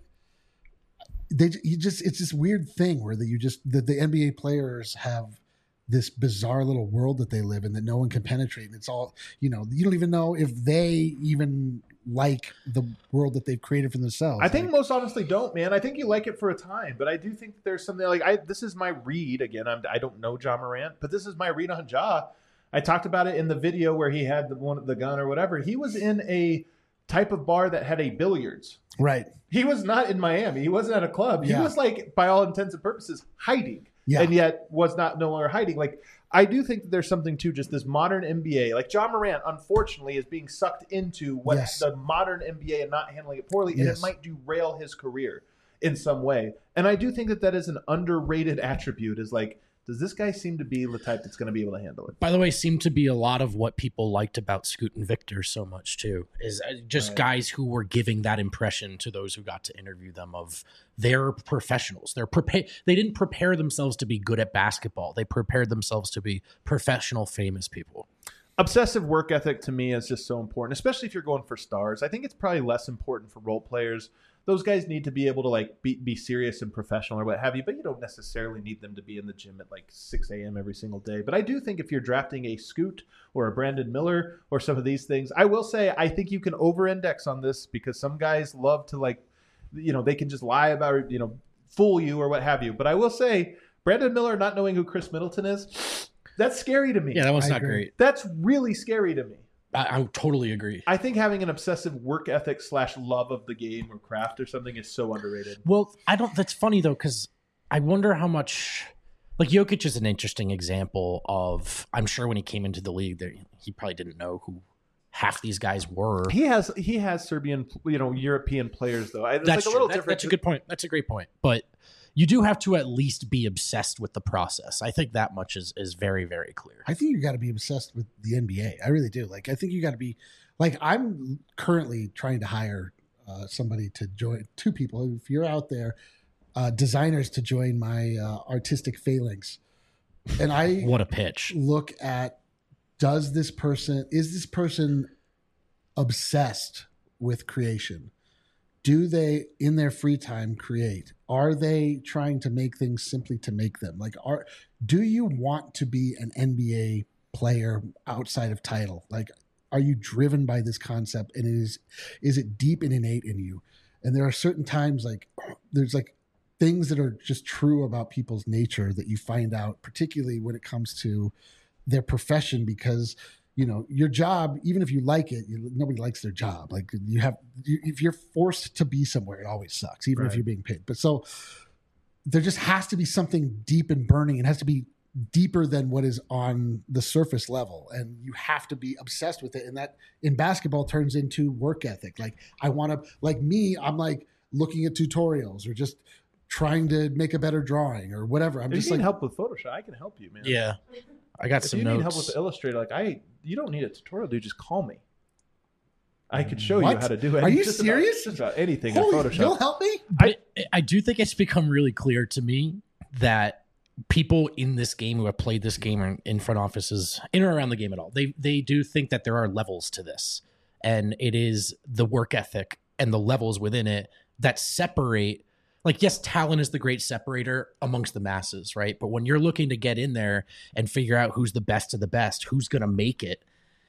[SPEAKER 2] it's this weird thing where the NBA players have this bizarre little world that they live in that no one can penetrate. And it's all, you don't even know if they even like the world that they've created for themselves.
[SPEAKER 1] I think most honestly don't, man. I think you like it for a time, but I do think there's something like this is my read again. I don't know Ja Morant, but this is my read on Ja. I talked about it in the video where he had the gun or whatever. He was in a type of bar that had a billiards.
[SPEAKER 2] Right.
[SPEAKER 1] He was not in Miami. He wasn't at a club. He
[SPEAKER 2] Yeah.
[SPEAKER 1] was like, by all intents and purposes, hiding.
[SPEAKER 2] Yeah.
[SPEAKER 1] And yet was no longer hiding. Like, I do think that there's something to just this modern NBA. Like, Ja Morant, unfortunately, is being sucked into what
[SPEAKER 2] Yes.
[SPEAKER 1] the modern NBA and not handling it poorly, and
[SPEAKER 2] Yes.
[SPEAKER 1] it might derail his career in some way. And I do think that is an underrated attribute. Is like, does this guy seem to be the type that's going to be able to handle it?
[SPEAKER 3] By the way, seemed to be a lot of what people liked about Scoot and Victor so much too, is just
[SPEAKER 1] Right.
[SPEAKER 3] guys who were giving that impression to those who got to interview them of they're professionals. They didn't prepare themselves to be good at basketball. They prepared themselves to be professional, famous people.
[SPEAKER 1] Obsessive work ethic to me is just so important, especially if you're going for stars. I think it's probably less important for role players. Those guys need to be able to like be serious and professional or what have you, but you don't necessarily need them to be in the gym at like 6 a.m. every single day. But I do think if you're drafting a Scoot or a Brandon Miller or some of these things, I will say I think you can over-index on this because some guys love to like, they can just lie about, fool you or what have you. But I will say Brandon Miller not knowing who Chris Middleton is, that's scary to me.
[SPEAKER 3] Yeah, that one's
[SPEAKER 2] I
[SPEAKER 3] not
[SPEAKER 2] agree.
[SPEAKER 3] great.
[SPEAKER 1] That's really scary to me.
[SPEAKER 3] I totally agree.
[SPEAKER 1] I think having an obsessive work ethic / love of the game or craft or something is so underrated.
[SPEAKER 3] Well, that's funny though, because I wonder how much, like Jokic is an interesting example of, I'm sure when he came into the league, he probably didn't know who half these guys were.
[SPEAKER 1] He has Serbian, European players though. It's
[SPEAKER 3] That's
[SPEAKER 1] like a little
[SPEAKER 3] true.
[SPEAKER 1] different.
[SPEAKER 3] That's a good point. That's a great point. But you do have to at least be obsessed with the process. I think that much is very, very clear.
[SPEAKER 2] I think you got to be obsessed with the NBA. I really do. Like, I think you got to be like, I'm currently trying to hire somebody to join, 2 people. If you're out there, designers to join my artistic phalanx. And I
[SPEAKER 3] What a pitch.
[SPEAKER 2] look at, is this person obsessed with creation? Do they, in their free time, create? Are they trying to make things simply to make them? Like, do you want to be an NBA player outside of title? Like, are you driven by this concept? And is it deep and innate in you? And there are certain times, like, there's like things that are just true about people's nature that you find out, particularly when it comes to their profession, because your job, even if you like it, nobody likes their job. Like if you're forced to be somewhere, it always sucks, even if
[SPEAKER 1] Right.
[SPEAKER 2] you're being paid. But so there just has to be something deep and burning. It has to be deeper than what is on the surface level. And you have to be obsessed with it. And that in basketball turns into work ethic. Like I'm like looking at tutorials or just trying to make a better drawing or whatever. I'm
[SPEAKER 1] If
[SPEAKER 2] just
[SPEAKER 1] you need
[SPEAKER 2] like,
[SPEAKER 1] help with Photoshop, I can help you, man.
[SPEAKER 3] Yeah. I got
[SPEAKER 1] If
[SPEAKER 3] some
[SPEAKER 1] you
[SPEAKER 3] notes.
[SPEAKER 1] need help with Illustrator, you don't need a tutorial, dude. Just call me. I could show you
[SPEAKER 2] What?
[SPEAKER 1] how to do it.
[SPEAKER 2] Are you
[SPEAKER 1] Just
[SPEAKER 2] serious?
[SPEAKER 1] Just about anything
[SPEAKER 2] holy,
[SPEAKER 1] in Photoshop.
[SPEAKER 2] you'll help me?
[SPEAKER 3] But I do think it's become really clear to me that people in this game who have played this game in front offices, in or around the game at all, they do think that there are levels to this. And it is the work ethic and the levels within it that separate. Like, yes, talent is the great separator amongst the masses, right? But when you're looking to get in there and figure out who's the best of the best, who's going to make it,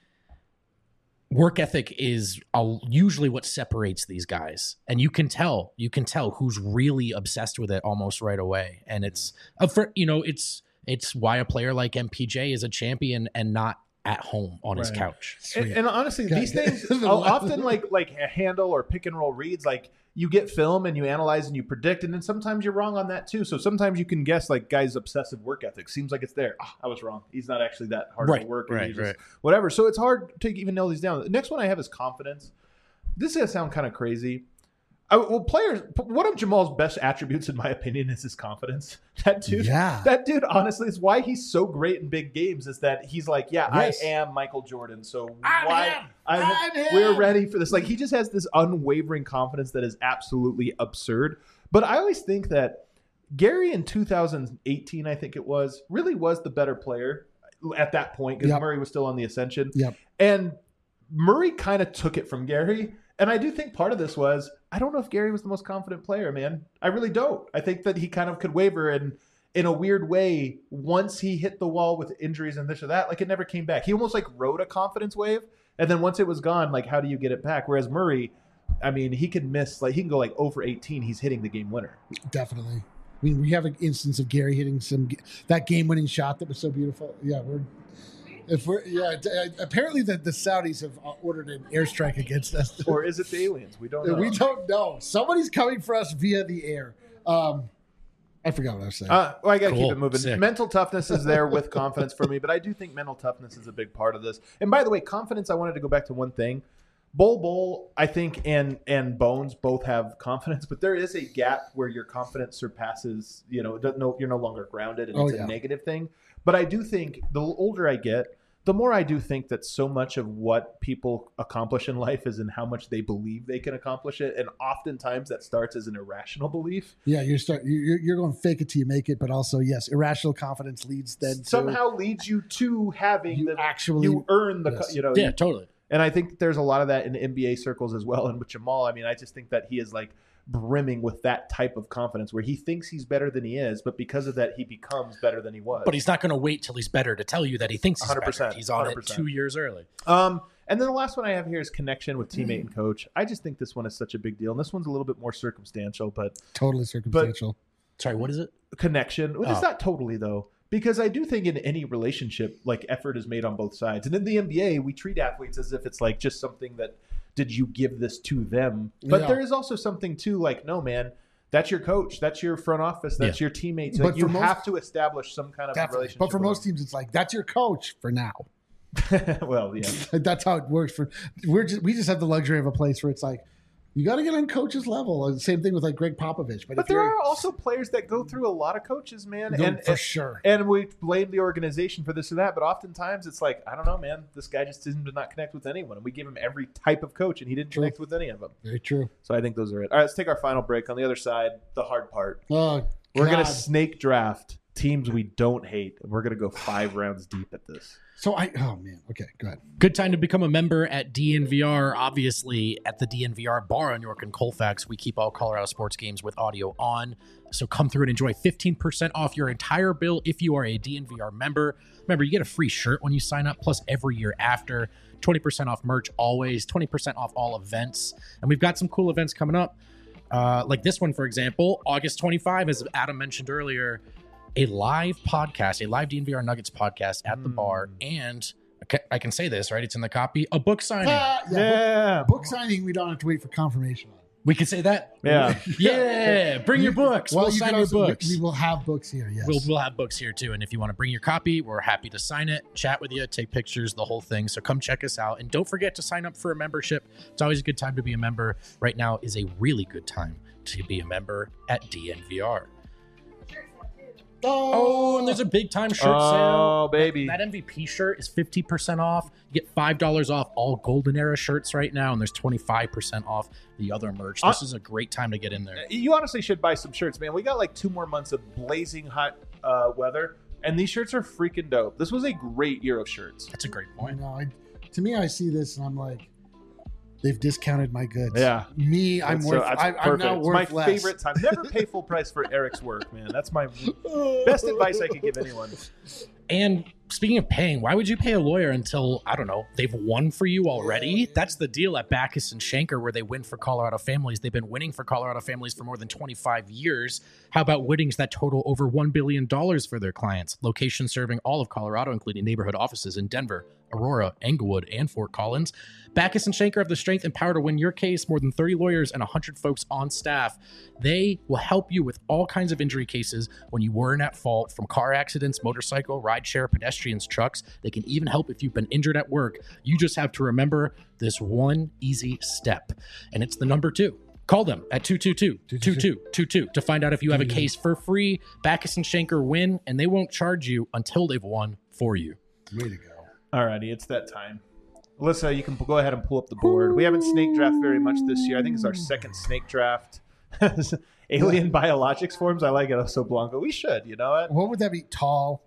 [SPEAKER 3] work ethic is usually what separates these guys. And you can tell who's really obsessed with it almost right away. And it's why a player like MPJ is a champion and not at home on his
[SPEAKER 1] Right.
[SPEAKER 3] couch.
[SPEAKER 1] And honestly,
[SPEAKER 2] Okay.
[SPEAKER 1] these things I'll often like a handle or pick and roll reads. Like you get film and you analyze and you predict, and then sometimes you're wrong on that too. So sometimes you can guess like guys' obsessive work ethic seems like it's there. Oh, I was wrong. He's not actually that hard of a worker. He's just whatever. So it's hard to even nail these down. The next one I have is confidence. This is gonna sound kind of crazy. One of Jamal's best attributes, in my opinion, is his confidence. That dude, honestly, is why he's so great in big games. Is that he's like,
[SPEAKER 2] Yes.
[SPEAKER 1] I am Michael Jordan. So
[SPEAKER 2] I'm him.
[SPEAKER 1] we're ready for this. Like he just has this unwavering confidence that is absolutely absurd. But I always think that Gary in 2018, I think it was, really was the better player at that point because Murray was still on the ascension. And Murray kind of took it from Gary. And I do think part of this was, I don't know if Gary was the most confident player, man. I really don't. I think that he kind of could waver, and in a weird way, once he hit the wall with injuries and this or that, like it never came back. He almost like rode a confidence wave, and then once it was gone, like how do you get it back? Whereas Murray, I mean, he can miss, like he can go like 0 for 18. He's hitting the game winner.
[SPEAKER 2] Definitely. I mean, we have an instance of Gary hitting that game-winning shot that was so beautiful. Yeah, apparently the Saudis have ordered an airstrike against us.
[SPEAKER 1] Or is it the aliens? We don't know.
[SPEAKER 2] We don't know. Somebody's coming for us via the air. I forgot what I was saying.
[SPEAKER 1] Well, I got to keep it moving.
[SPEAKER 3] Sick.
[SPEAKER 1] Mental toughness is there with confidence for me, but I do think mental toughness is a big part of this. And by the way, confidence, I wanted to go back to one thing. Bol, I think, and Bones both have confidence, but there is a gap where your confidence surpasses, you're no longer grounded, and it's a negative thing. But I do think the older I get, the more I do think that so much of what people accomplish in life is in how much they believe they can accomplish it, and oftentimes that starts as an irrational belief.
[SPEAKER 2] Yeah, you're going fake it till you make it, but also yes, irrational confidence leads
[SPEAKER 1] leads you to having
[SPEAKER 2] you
[SPEAKER 1] earn the
[SPEAKER 3] Totally.
[SPEAKER 1] And I think there's a lot of that in NBA circles as well. And with Jamal, I mean, I just think that he is like brimming with that type of confidence where he thinks he's better than he is, but because of that, he becomes better than he was.
[SPEAKER 3] But he's not going to wait till he's better to tell you that he thinks he's
[SPEAKER 1] 100%,
[SPEAKER 3] better. He's on
[SPEAKER 1] 100%.
[SPEAKER 3] it 2 years early.
[SPEAKER 1] And then the last one I have here is connection with teammate and coach. I just think this one is such a big deal. And this one's a little bit more circumstantial, but
[SPEAKER 2] totally circumstantial.
[SPEAKER 3] Sorry, what is it?
[SPEAKER 1] Connection. Well, it's not totally though. Because I do think in any relationship, like effort is made on both sides. And in the NBA, we treat athletes as if it's like just something that, did you give this to them? But there is also something too, like, no, man, that's your coach. That's your front office. That's your teammates. Like, you have to establish some kind of relationship.
[SPEAKER 2] But for most teams, it's like, that's your coach for now.
[SPEAKER 1] Well, yeah.
[SPEAKER 2] That's how it works. We just have the luxury of a place where it's like, you got to get on coach's level. And same thing with like Greg Popovich.
[SPEAKER 1] But there are also players that go through a lot of coaches, man.
[SPEAKER 2] For sure.
[SPEAKER 1] And we blame the organization for this or that. But oftentimes it's like, I don't know, man. This guy just seemed to not connect with anyone. And we give him every type of coach, and he didn't connect with any of them.
[SPEAKER 2] Very true.
[SPEAKER 1] So I think those are it. All right, let's take our final break. On the other side, the hard part.
[SPEAKER 2] Oh,
[SPEAKER 1] We're going to snake draft teams we don't hate. We're going to go 5 rounds deep at this.
[SPEAKER 2] Oh man. Okay, go ahead.
[SPEAKER 3] Good time to become a member at DNVR. Obviously, at the DNVR bar on York and Colfax, we keep all Colorado sports games with audio on. So come through and enjoy 15% off your entire bill if you are a DNVR member. Remember, you get a free shirt when you sign up, plus every year after. 20% off merch always, 20% off all events. And we've got some cool events coming up. Like this one, for example, August 25, as Adam mentioned earlier, a live podcast, a live DNVR Nuggets podcast at the bar, and I can say this, right? It's in the copy. A book signing.
[SPEAKER 1] Yeah.
[SPEAKER 2] Book signing, we don't have to wait for confirmation on.
[SPEAKER 3] We can say that?
[SPEAKER 1] Yeah.
[SPEAKER 3] Yeah. Bring your books. We'll sign your books.
[SPEAKER 2] We will have books here, yes.
[SPEAKER 3] We'll have books here, too. And if you want to bring your copy, we're happy to sign it, chat with you, take pictures, the whole thing. So come check us out. And don't forget to sign up for a membership. It's always a good time to be a member. Right now is a really good time to be a member at DNVR. Oh, and there's a big time shirt sale.
[SPEAKER 1] Oh, baby.
[SPEAKER 3] That MVP shirt is 50% off. You get $5 off all Golden Era shirts right now, and there's 25% off the other merch. This is a great time to get in there.
[SPEAKER 1] You honestly should buy some shirts, man. We got like 2 more months of blazing hot weather, and these shirts are freaking dope. This was a great year of shirts.
[SPEAKER 3] That's a great point.
[SPEAKER 2] To me, I see this, and I'm like, they've discounted my goods.
[SPEAKER 1] Yeah.
[SPEAKER 2] Me, I'm now worth
[SPEAKER 1] it's my
[SPEAKER 2] less.
[SPEAKER 1] favorite time. Never pay full price for Eric's work, man. That's my best advice I could give anyone.
[SPEAKER 3] And speaking of paying, why would you pay a lawyer until, I don't know, they've won for you already? That's the deal at Backus and Schenker, where they win for Colorado families. They've been winning for Colorado families for more than 25 years. How about winnings that total over $1 billion for their clients? Locations serving all of Colorado, including neighborhood offices in Denver, Aurora, Englewood, and Fort Collins. Backus and Schenker have the strength and power to win your case. More than 30 lawyers and 100 folks on staff. They will help you with all kinds of injury cases when you weren't at fault, from car accidents, motorcycle, rideshare, pedestrians, trucks. They can even help if you've been injured at work. You just have to remember this one easy step, and it's the number 2. Call them at 222-2222 to find out if you have a case for free. Backus and Schenker win, and they won't charge you until they've won for you.
[SPEAKER 2] Way to go.
[SPEAKER 1] Alrighty, it's that time. Alyssa, you can go ahead and pull up the board. We haven't snake draft very much this year. I think it's our second snake draft. Alien biologics forms. I like it. So Blanco. We should. You know what?
[SPEAKER 2] What would that be? Tall,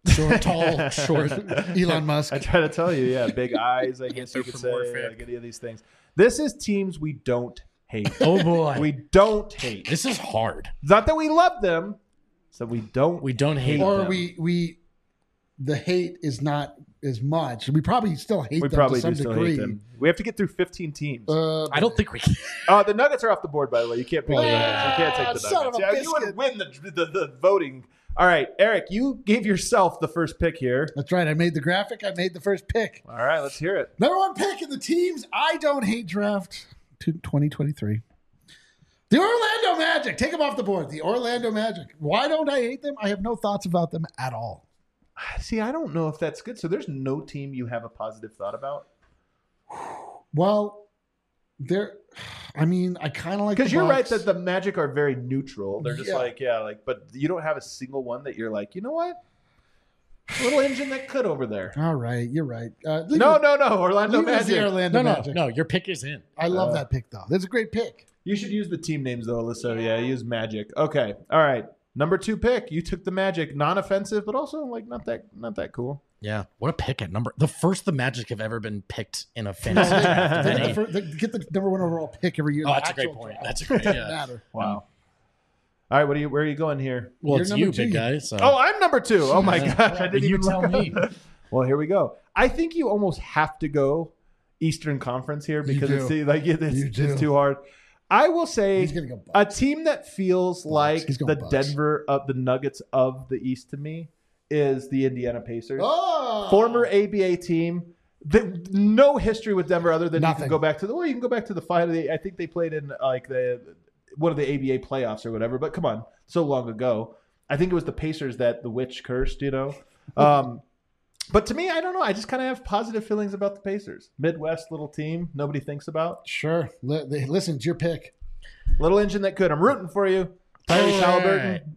[SPEAKER 3] Short.
[SPEAKER 2] Elon Musk.
[SPEAKER 1] I try to tell you. Yeah, big eyes. I guess you could say. Like any of these things. This is teams we don't hate.
[SPEAKER 3] Oh boy,
[SPEAKER 1] we don't hate.
[SPEAKER 3] This is hard.
[SPEAKER 1] Not that we love them. So we don't.
[SPEAKER 3] We don't hate
[SPEAKER 2] Or
[SPEAKER 3] them.
[SPEAKER 2] we the hate is not as much. We probably still hate
[SPEAKER 1] We
[SPEAKER 2] them
[SPEAKER 1] probably
[SPEAKER 2] to some
[SPEAKER 1] do still
[SPEAKER 2] degree.
[SPEAKER 1] hate them. We have to get through 15 teams.
[SPEAKER 3] I don't think we can.
[SPEAKER 1] The Nuggets are off the board, by the way. You can't pick the Nuggets. You can't take the
[SPEAKER 2] son
[SPEAKER 1] Nuggets.
[SPEAKER 2] of a
[SPEAKER 1] Yeah, you would
[SPEAKER 2] biscuit.
[SPEAKER 1] win the voting. All right, Eric, you gave yourself the first pick here.
[SPEAKER 2] That's right. I made the graphic. I made the first pick.
[SPEAKER 1] All right, let's hear it.
[SPEAKER 2] Number 1 pick in the teams I don't hate draft 2023. The Orlando Magic. Take them off the board. The Orlando Magic. Why don't I hate them? I have no thoughts about them at all.
[SPEAKER 1] See, I don't know if that's good. So there's no team you have a positive thought about?
[SPEAKER 2] Well, I kind of like
[SPEAKER 1] Because
[SPEAKER 2] the
[SPEAKER 1] you're right
[SPEAKER 2] Bucks.
[SPEAKER 1] that the Magic are very neutral. They're just
[SPEAKER 2] Yeah.
[SPEAKER 1] but you don't have a single one that you're like, you know what? A little engine that could over there.
[SPEAKER 2] All right, you're right.
[SPEAKER 1] No. Orlando
[SPEAKER 2] Leave it as the
[SPEAKER 1] Magic.
[SPEAKER 2] Orlando Magic.
[SPEAKER 3] No. Your pick is in.
[SPEAKER 2] I love that pick though. That's a great pick.
[SPEAKER 1] You should use the team names though, Alyssa. Yeah, use Magic. Okay. All right. Number 2 pick. You took the Magic. Non-offensive, but also like not that cool.
[SPEAKER 3] Yeah. What a pick at number. The first the Magic have ever been picked in a fantasy draft.
[SPEAKER 2] They get the number 1 overall pick every year.
[SPEAKER 3] Oh,
[SPEAKER 2] The
[SPEAKER 3] that's a great
[SPEAKER 2] actual
[SPEAKER 3] point.
[SPEAKER 2] draft.
[SPEAKER 3] That's a great.
[SPEAKER 2] Doesn't
[SPEAKER 3] Yeah.
[SPEAKER 2] matter.
[SPEAKER 1] Wow. All right, where are you going here?
[SPEAKER 3] Well,
[SPEAKER 2] You're
[SPEAKER 3] it's
[SPEAKER 2] number
[SPEAKER 3] you,
[SPEAKER 2] 2.
[SPEAKER 3] big guy. So.
[SPEAKER 1] Oh, I'm number 2. Oh my gosh, I didn't
[SPEAKER 3] You
[SPEAKER 1] even
[SPEAKER 3] tell
[SPEAKER 1] look
[SPEAKER 3] me.
[SPEAKER 1] up. Well, here we go. I think you almost have to go Eastern Conference here because
[SPEAKER 2] do.
[SPEAKER 1] it's
[SPEAKER 2] do.
[SPEAKER 1] too hard. I will say
[SPEAKER 2] He's gonna go
[SPEAKER 1] a
[SPEAKER 2] Bucks.
[SPEAKER 1] team that feels like
[SPEAKER 2] He's
[SPEAKER 1] the
[SPEAKER 2] going Bucks.
[SPEAKER 1] Denver of the Nuggets of the East to me is the Indiana Pacers.
[SPEAKER 2] Oh!
[SPEAKER 1] Former ABA team. No history with Denver other than you
[SPEAKER 2] Nothing.
[SPEAKER 1] can go back to you can go back to the final. I think they played in like one of the ABA playoffs or whatever. But come on, so long ago. I think it was the Pacers that the witch cursed. But to me, I don't know. I just kind of have positive feelings about the Pacers. Midwest little team, nobody thinks about.
[SPEAKER 2] Sure. Listen, it's your pick.
[SPEAKER 1] Little engine that could. I'm rooting for you, Tyrese Halliburton.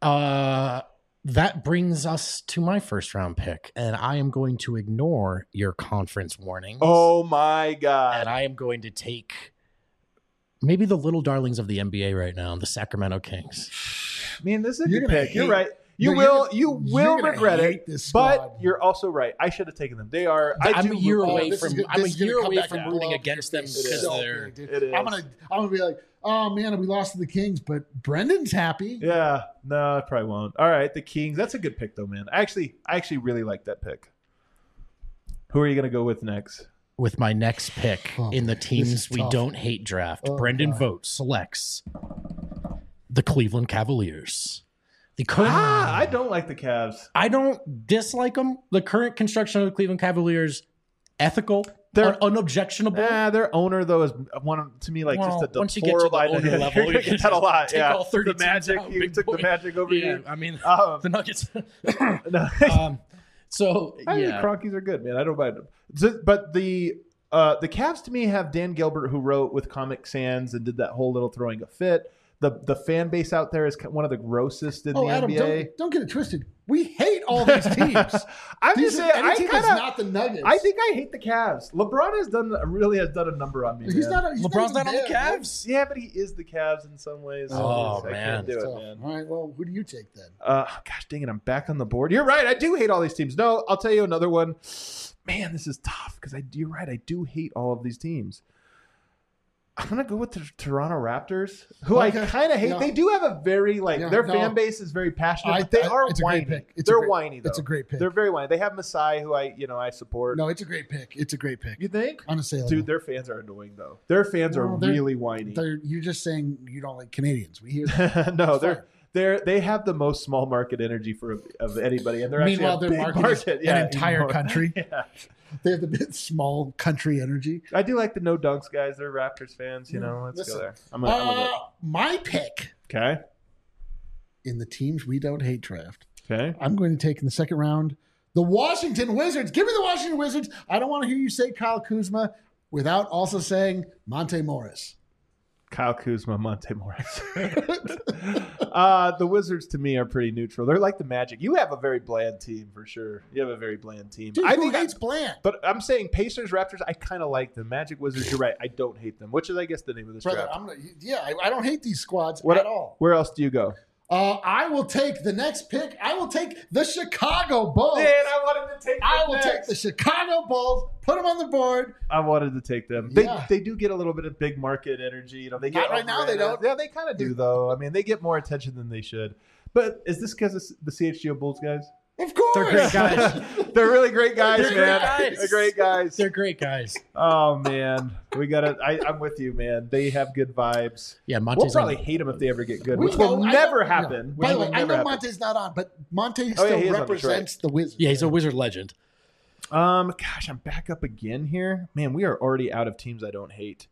[SPEAKER 3] That brings us to my first round pick, and I am going to ignore your conference warnings.
[SPEAKER 1] Oh my God!
[SPEAKER 3] And I am going to take maybe the little darlings of the NBA right now, the Sacramento Kings.
[SPEAKER 1] Man, this is a
[SPEAKER 2] You're
[SPEAKER 1] good
[SPEAKER 2] gonna
[SPEAKER 1] pick. You're
[SPEAKER 2] hate-
[SPEAKER 1] right. You
[SPEAKER 2] No,
[SPEAKER 1] will
[SPEAKER 2] you're gonna
[SPEAKER 1] regret
[SPEAKER 2] hate
[SPEAKER 1] it.
[SPEAKER 2] this
[SPEAKER 1] But
[SPEAKER 2] squad.
[SPEAKER 1] you're also right. I should have taken them. They are.
[SPEAKER 3] I'm a year
[SPEAKER 2] Oh,
[SPEAKER 3] away
[SPEAKER 2] this is
[SPEAKER 3] from.
[SPEAKER 2] good-
[SPEAKER 3] I'm a
[SPEAKER 2] this is gonna
[SPEAKER 3] year
[SPEAKER 2] come
[SPEAKER 3] away
[SPEAKER 2] back
[SPEAKER 3] from
[SPEAKER 2] and
[SPEAKER 3] rooting
[SPEAKER 2] blow up
[SPEAKER 3] against
[SPEAKER 2] your
[SPEAKER 3] them
[SPEAKER 2] face
[SPEAKER 3] because
[SPEAKER 2] so
[SPEAKER 3] they're.
[SPEAKER 2] big, dude.
[SPEAKER 1] It is.
[SPEAKER 2] I'm gonna be like, oh man, we lost to the Kings, but Brendan's happy.
[SPEAKER 1] Yeah. No, I probably won't. All right, the Kings. That's a good pick though, man. I actually really like that pick. Who are you going to go with next?
[SPEAKER 3] With my next pick
[SPEAKER 2] Oh,
[SPEAKER 3] in the
[SPEAKER 2] this
[SPEAKER 3] teams
[SPEAKER 2] is
[SPEAKER 3] we
[SPEAKER 2] tough.
[SPEAKER 3] don't hate draft,
[SPEAKER 2] Oh,
[SPEAKER 3] Brendan
[SPEAKER 2] God.
[SPEAKER 3] Vogt selects the Cleveland Cavaliers. The current.
[SPEAKER 1] I don't like the Cavs.
[SPEAKER 3] I don't dislike them. The current construction of the Cleveland Cavaliers, ethical,
[SPEAKER 1] They're-
[SPEAKER 3] unobjectionable.
[SPEAKER 1] Their owner though is one to me like
[SPEAKER 3] Well,
[SPEAKER 1] just a
[SPEAKER 3] once you get to the
[SPEAKER 1] deplorable
[SPEAKER 3] owner
[SPEAKER 1] idea.
[SPEAKER 3] level,
[SPEAKER 1] You're
[SPEAKER 3] you
[SPEAKER 1] gonna
[SPEAKER 3] can
[SPEAKER 1] get that a lot.
[SPEAKER 3] take
[SPEAKER 1] Yeah,
[SPEAKER 3] all 30
[SPEAKER 1] the Magic.
[SPEAKER 3] teams out,
[SPEAKER 1] You
[SPEAKER 3] big
[SPEAKER 1] took
[SPEAKER 3] boy.
[SPEAKER 1] the Magic over
[SPEAKER 3] Yeah,
[SPEAKER 1] here.
[SPEAKER 3] I mean,
[SPEAKER 1] Um,
[SPEAKER 3] the Nuggets.
[SPEAKER 1] no.
[SPEAKER 3] So
[SPEAKER 1] I think
[SPEAKER 3] yeah,
[SPEAKER 1] Cronkies are good, man. I don't mind them. But the Cavs to me have Dan Gilbert, who wrote with Comic Sans and did that whole little throwing a fit. The fan base out there is one of the grossest in
[SPEAKER 2] Oh,
[SPEAKER 1] the
[SPEAKER 2] Adam,
[SPEAKER 1] NBA.
[SPEAKER 2] don't get it twisted. We hate all these teams.
[SPEAKER 1] I'm
[SPEAKER 2] These
[SPEAKER 1] just
[SPEAKER 2] are-
[SPEAKER 1] saying,
[SPEAKER 2] any
[SPEAKER 1] I
[SPEAKER 2] team
[SPEAKER 1] kind
[SPEAKER 2] that's
[SPEAKER 1] of,
[SPEAKER 2] not the Nuggets.
[SPEAKER 1] I think I hate the Cavs. LeBron has done a number on me.
[SPEAKER 2] he's
[SPEAKER 1] man.
[SPEAKER 2] not. He's
[SPEAKER 3] LeBron's
[SPEAKER 2] not
[SPEAKER 3] not on
[SPEAKER 2] even
[SPEAKER 3] the
[SPEAKER 2] there,
[SPEAKER 3] Cavs.
[SPEAKER 1] Yeah, but he is the Cavs in some ways.
[SPEAKER 3] Oh,
[SPEAKER 1] I
[SPEAKER 3] man.
[SPEAKER 1] can't do
[SPEAKER 2] So,
[SPEAKER 1] it, man.
[SPEAKER 2] all right. Well, who do you take then?
[SPEAKER 1] Gosh dang it, I'm back on the board. You're right. I do hate all these teams. No, I'll tell you another one. Man, this is tough because you're right. I do hate all of these teams. I'm gonna go with the Toronto Raptors, who
[SPEAKER 2] Okay.
[SPEAKER 1] I kind of hate.
[SPEAKER 2] Yeah.
[SPEAKER 1] They do have a very their
[SPEAKER 2] no.
[SPEAKER 1] fan base is very passionate. But they are
[SPEAKER 2] it's a
[SPEAKER 1] whiny.
[SPEAKER 2] great pick.
[SPEAKER 1] They're whiny though.
[SPEAKER 2] It's a great pick.
[SPEAKER 1] They're very whiny. They have Masai, who I support.
[SPEAKER 2] No, it's a great pick. It's a great pick.
[SPEAKER 1] You think?
[SPEAKER 2] Unassailable.
[SPEAKER 1] Dude, their fans are annoying though. Their fans are
[SPEAKER 2] Well, they're-
[SPEAKER 1] really whiny.
[SPEAKER 2] You're just saying you don't like Canadians. We hear that.
[SPEAKER 1] No,
[SPEAKER 2] It's
[SPEAKER 1] they have the most small market energy of anybody, and they're
[SPEAKER 2] Meanwhile,
[SPEAKER 1] actually
[SPEAKER 2] their
[SPEAKER 1] a big
[SPEAKER 2] market is an entire
[SPEAKER 1] anymore.
[SPEAKER 2] country.
[SPEAKER 1] Yeah.
[SPEAKER 2] They have the bit small country energy.
[SPEAKER 1] I do like the no dunks guys. They're Raptors fans. Let's
[SPEAKER 2] Listen,
[SPEAKER 1] go there. I'm with it.
[SPEAKER 2] My pick
[SPEAKER 1] Okay.
[SPEAKER 2] in the teams we don't hate draft.
[SPEAKER 1] Okay.
[SPEAKER 2] I'm going to take in the second round the Washington Wizards. Give me the Washington Wizards. I don't want to hear you say Kyle Kuzma without also saying Monte Morris.
[SPEAKER 1] Kyle Kuzma, Monte Morris. The Wizards to me are pretty neutral. They're like the Magic. You have a very bland team for sure. You have a very bland team.
[SPEAKER 2] Dude,
[SPEAKER 1] I
[SPEAKER 2] who
[SPEAKER 1] think
[SPEAKER 2] hates bland?
[SPEAKER 1] but I'm saying Pacers, Raptors. I kind of like them. Magic, Wizards. You're right. I don't hate them. Which is, I guess, the name of this
[SPEAKER 2] Brother,
[SPEAKER 1] draft.
[SPEAKER 2] I don't hate these squads
[SPEAKER 1] What-
[SPEAKER 2] at all.
[SPEAKER 1] Where else do you go?
[SPEAKER 2] I will take the next pick. I will take the Chicago Bulls.
[SPEAKER 1] I wanted to take.
[SPEAKER 2] I will take the Chicago Bulls, put them on the board.
[SPEAKER 1] I wanted to take them.
[SPEAKER 2] Yeah.
[SPEAKER 1] They do get a little bit of big market energy. They get
[SPEAKER 2] Not right now, they don't.
[SPEAKER 1] Yeah, they kind of do though. I mean, they get more attention than they should. But is this because of the CHGO Bulls guys?
[SPEAKER 2] Of course.
[SPEAKER 3] They're great guys.
[SPEAKER 1] They're really great guys,
[SPEAKER 3] They're great
[SPEAKER 1] man.
[SPEAKER 3] guys.
[SPEAKER 1] They're great guys.
[SPEAKER 3] They're great guys.
[SPEAKER 1] Oh man, we gotta. I'm with you, man. They have good vibes.
[SPEAKER 3] Yeah,
[SPEAKER 1] We'll
[SPEAKER 3] Monte's
[SPEAKER 1] probably
[SPEAKER 3] on.
[SPEAKER 1] hate them if they ever get good,
[SPEAKER 2] We
[SPEAKER 1] which
[SPEAKER 2] know-
[SPEAKER 1] will
[SPEAKER 2] I
[SPEAKER 1] never
[SPEAKER 2] know-
[SPEAKER 1] happen.
[SPEAKER 2] yeah.
[SPEAKER 1] Which
[SPEAKER 2] By the
[SPEAKER 1] will
[SPEAKER 2] way, I
[SPEAKER 1] never
[SPEAKER 2] know
[SPEAKER 1] happen.
[SPEAKER 2] Monte's not on, but Monte
[SPEAKER 1] Oh, yeah,
[SPEAKER 2] still
[SPEAKER 1] he is on
[SPEAKER 2] represents the Wizards.
[SPEAKER 3] Yeah, he's a Wizard legend.
[SPEAKER 1] Gosh, I'm back up again here. Man, we are already out of teams I don't hate.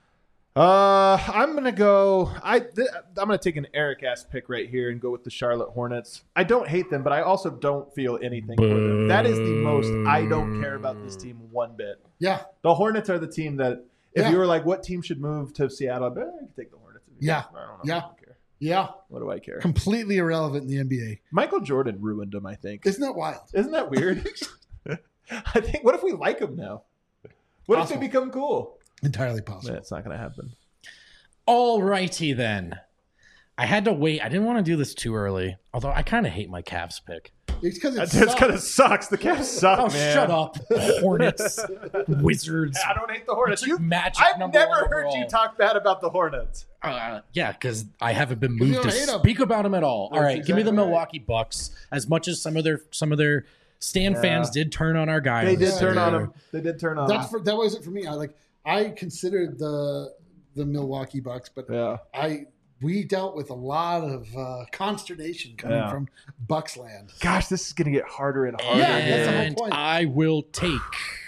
[SPEAKER 1] I'm gonna go. I'm gonna take an Eric ass pick right here and go with the Charlotte Hornets. I don't hate them, but I also don't feel anything for them. That is the most I don't care about this team one bit.
[SPEAKER 2] Yeah,
[SPEAKER 1] The Hornets are the team that if
[SPEAKER 2] Yeah.
[SPEAKER 1] you were like, what team should move to Seattle? I can take the Hornets.
[SPEAKER 2] Yeah.
[SPEAKER 1] I don't know.
[SPEAKER 2] Yeah.
[SPEAKER 1] I don't care.
[SPEAKER 2] yeah.
[SPEAKER 1] What do I care?
[SPEAKER 2] Completely irrelevant in the NBA.
[SPEAKER 1] Michael Jordan ruined them. I think.
[SPEAKER 2] Isn't that wild?
[SPEAKER 1] Isn't that weird? I think. What if we like them now? What
[SPEAKER 2] Possible.
[SPEAKER 1] if they become cool?
[SPEAKER 2] Entirely possible.
[SPEAKER 1] It's not going to happen.
[SPEAKER 3] All righty then. I had to wait. I didn't want to do this too early. Although I kind of hate my Cavs pick.
[SPEAKER 2] It's because
[SPEAKER 1] It's kind of sucks. The Cavs suck,
[SPEAKER 3] Oh,
[SPEAKER 1] man.
[SPEAKER 3] shut up. Hornets, Wizards.
[SPEAKER 1] I don't hate the Hornets.
[SPEAKER 3] Took Magic
[SPEAKER 1] I've
[SPEAKER 3] number
[SPEAKER 1] never
[SPEAKER 3] one
[SPEAKER 1] heard you
[SPEAKER 3] overall.
[SPEAKER 1] talk bad about the Hornets.
[SPEAKER 3] Yeah, because I haven't been
[SPEAKER 2] you
[SPEAKER 3] moved to
[SPEAKER 2] don't hate 'em.
[SPEAKER 3] speak about them at all. All
[SPEAKER 1] That's
[SPEAKER 3] right, give me the
[SPEAKER 1] exactly right.
[SPEAKER 3] Milwaukee Bucks. As much as some of their Stan
[SPEAKER 1] Yeah.
[SPEAKER 3] fans did turn on our guy.
[SPEAKER 1] They
[SPEAKER 3] on
[SPEAKER 1] did
[SPEAKER 3] this
[SPEAKER 1] turn on
[SPEAKER 3] year.
[SPEAKER 1] him. They did turn on him.
[SPEAKER 2] that wasn't for me. I considered the Milwaukee Bucks, but
[SPEAKER 1] Yeah.
[SPEAKER 2] we dealt with a lot of consternation coming
[SPEAKER 1] Yeah.
[SPEAKER 2] from Bucksland.
[SPEAKER 1] Gosh, this is going to get harder and harder.
[SPEAKER 2] Yeah, that's the whole
[SPEAKER 3] And
[SPEAKER 2] point.
[SPEAKER 3] I will take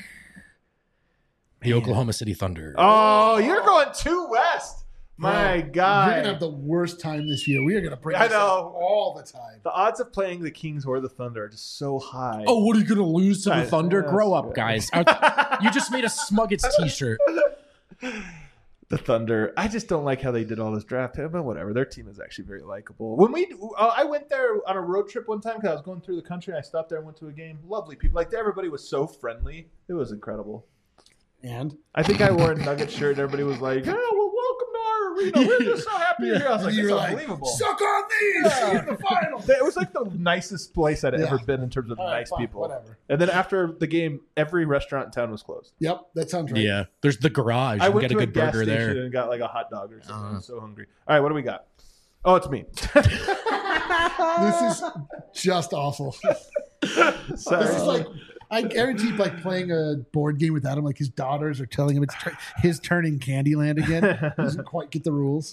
[SPEAKER 3] the Oklahoma City Thunder.
[SPEAKER 1] Oh, you're going too west. My
[SPEAKER 2] Bro,
[SPEAKER 1] God.
[SPEAKER 2] You're gonna have the worst time this year. We are gonna bring
[SPEAKER 1] I
[SPEAKER 2] this up
[SPEAKER 1] know.
[SPEAKER 2] all the time.
[SPEAKER 1] The odds of playing the Kings or the Thunder are just so high.
[SPEAKER 3] Oh, what are you going to lose to the
[SPEAKER 1] Guys,
[SPEAKER 3] Thunder?
[SPEAKER 1] yes,
[SPEAKER 3] Grow up,
[SPEAKER 1] yeah.
[SPEAKER 3] guys. You just made a Smuggets t-shirt.
[SPEAKER 1] The Thunder. I just don't like how they did all this draft, but whatever. Their team is actually very likable. When I went there on a road trip one time because I was going through the country. I stopped there and went to a game. Lovely people. Like everybody was so friendly. It was incredible.
[SPEAKER 2] And
[SPEAKER 1] I think I wore a Nugget shirt. And everybody was like, "Yeah, well, welcome to our arena. We're just so happy you're here." I was like,
[SPEAKER 2] you
[SPEAKER 1] "It's
[SPEAKER 2] were like,
[SPEAKER 1] unbelievable."
[SPEAKER 2] suck on these in the final.
[SPEAKER 1] It was like the nicest place I'd ever
[SPEAKER 2] Yeah.
[SPEAKER 1] been in terms of
[SPEAKER 2] All right,
[SPEAKER 1] nice
[SPEAKER 2] fine,
[SPEAKER 1] people.
[SPEAKER 2] whatever.
[SPEAKER 1] And then after the game, every restaurant in town was closed.
[SPEAKER 2] Yep, that sounds right.
[SPEAKER 3] Yeah, there's the garage.
[SPEAKER 1] I
[SPEAKER 3] You
[SPEAKER 1] went
[SPEAKER 3] get a
[SPEAKER 1] to a
[SPEAKER 3] good
[SPEAKER 1] gas
[SPEAKER 3] burger
[SPEAKER 1] station
[SPEAKER 3] there.
[SPEAKER 1] and got like a hot dog or something. I was so hungry. All right, what do we got? Oh, it's me.
[SPEAKER 2] This is just awful.
[SPEAKER 1] Sorry.
[SPEAKER 2] This is like, I guarantee, like playing a board game with Adam. Like his daughters are telling him it's his turn in Candyland again. He doesn't quite get the rules.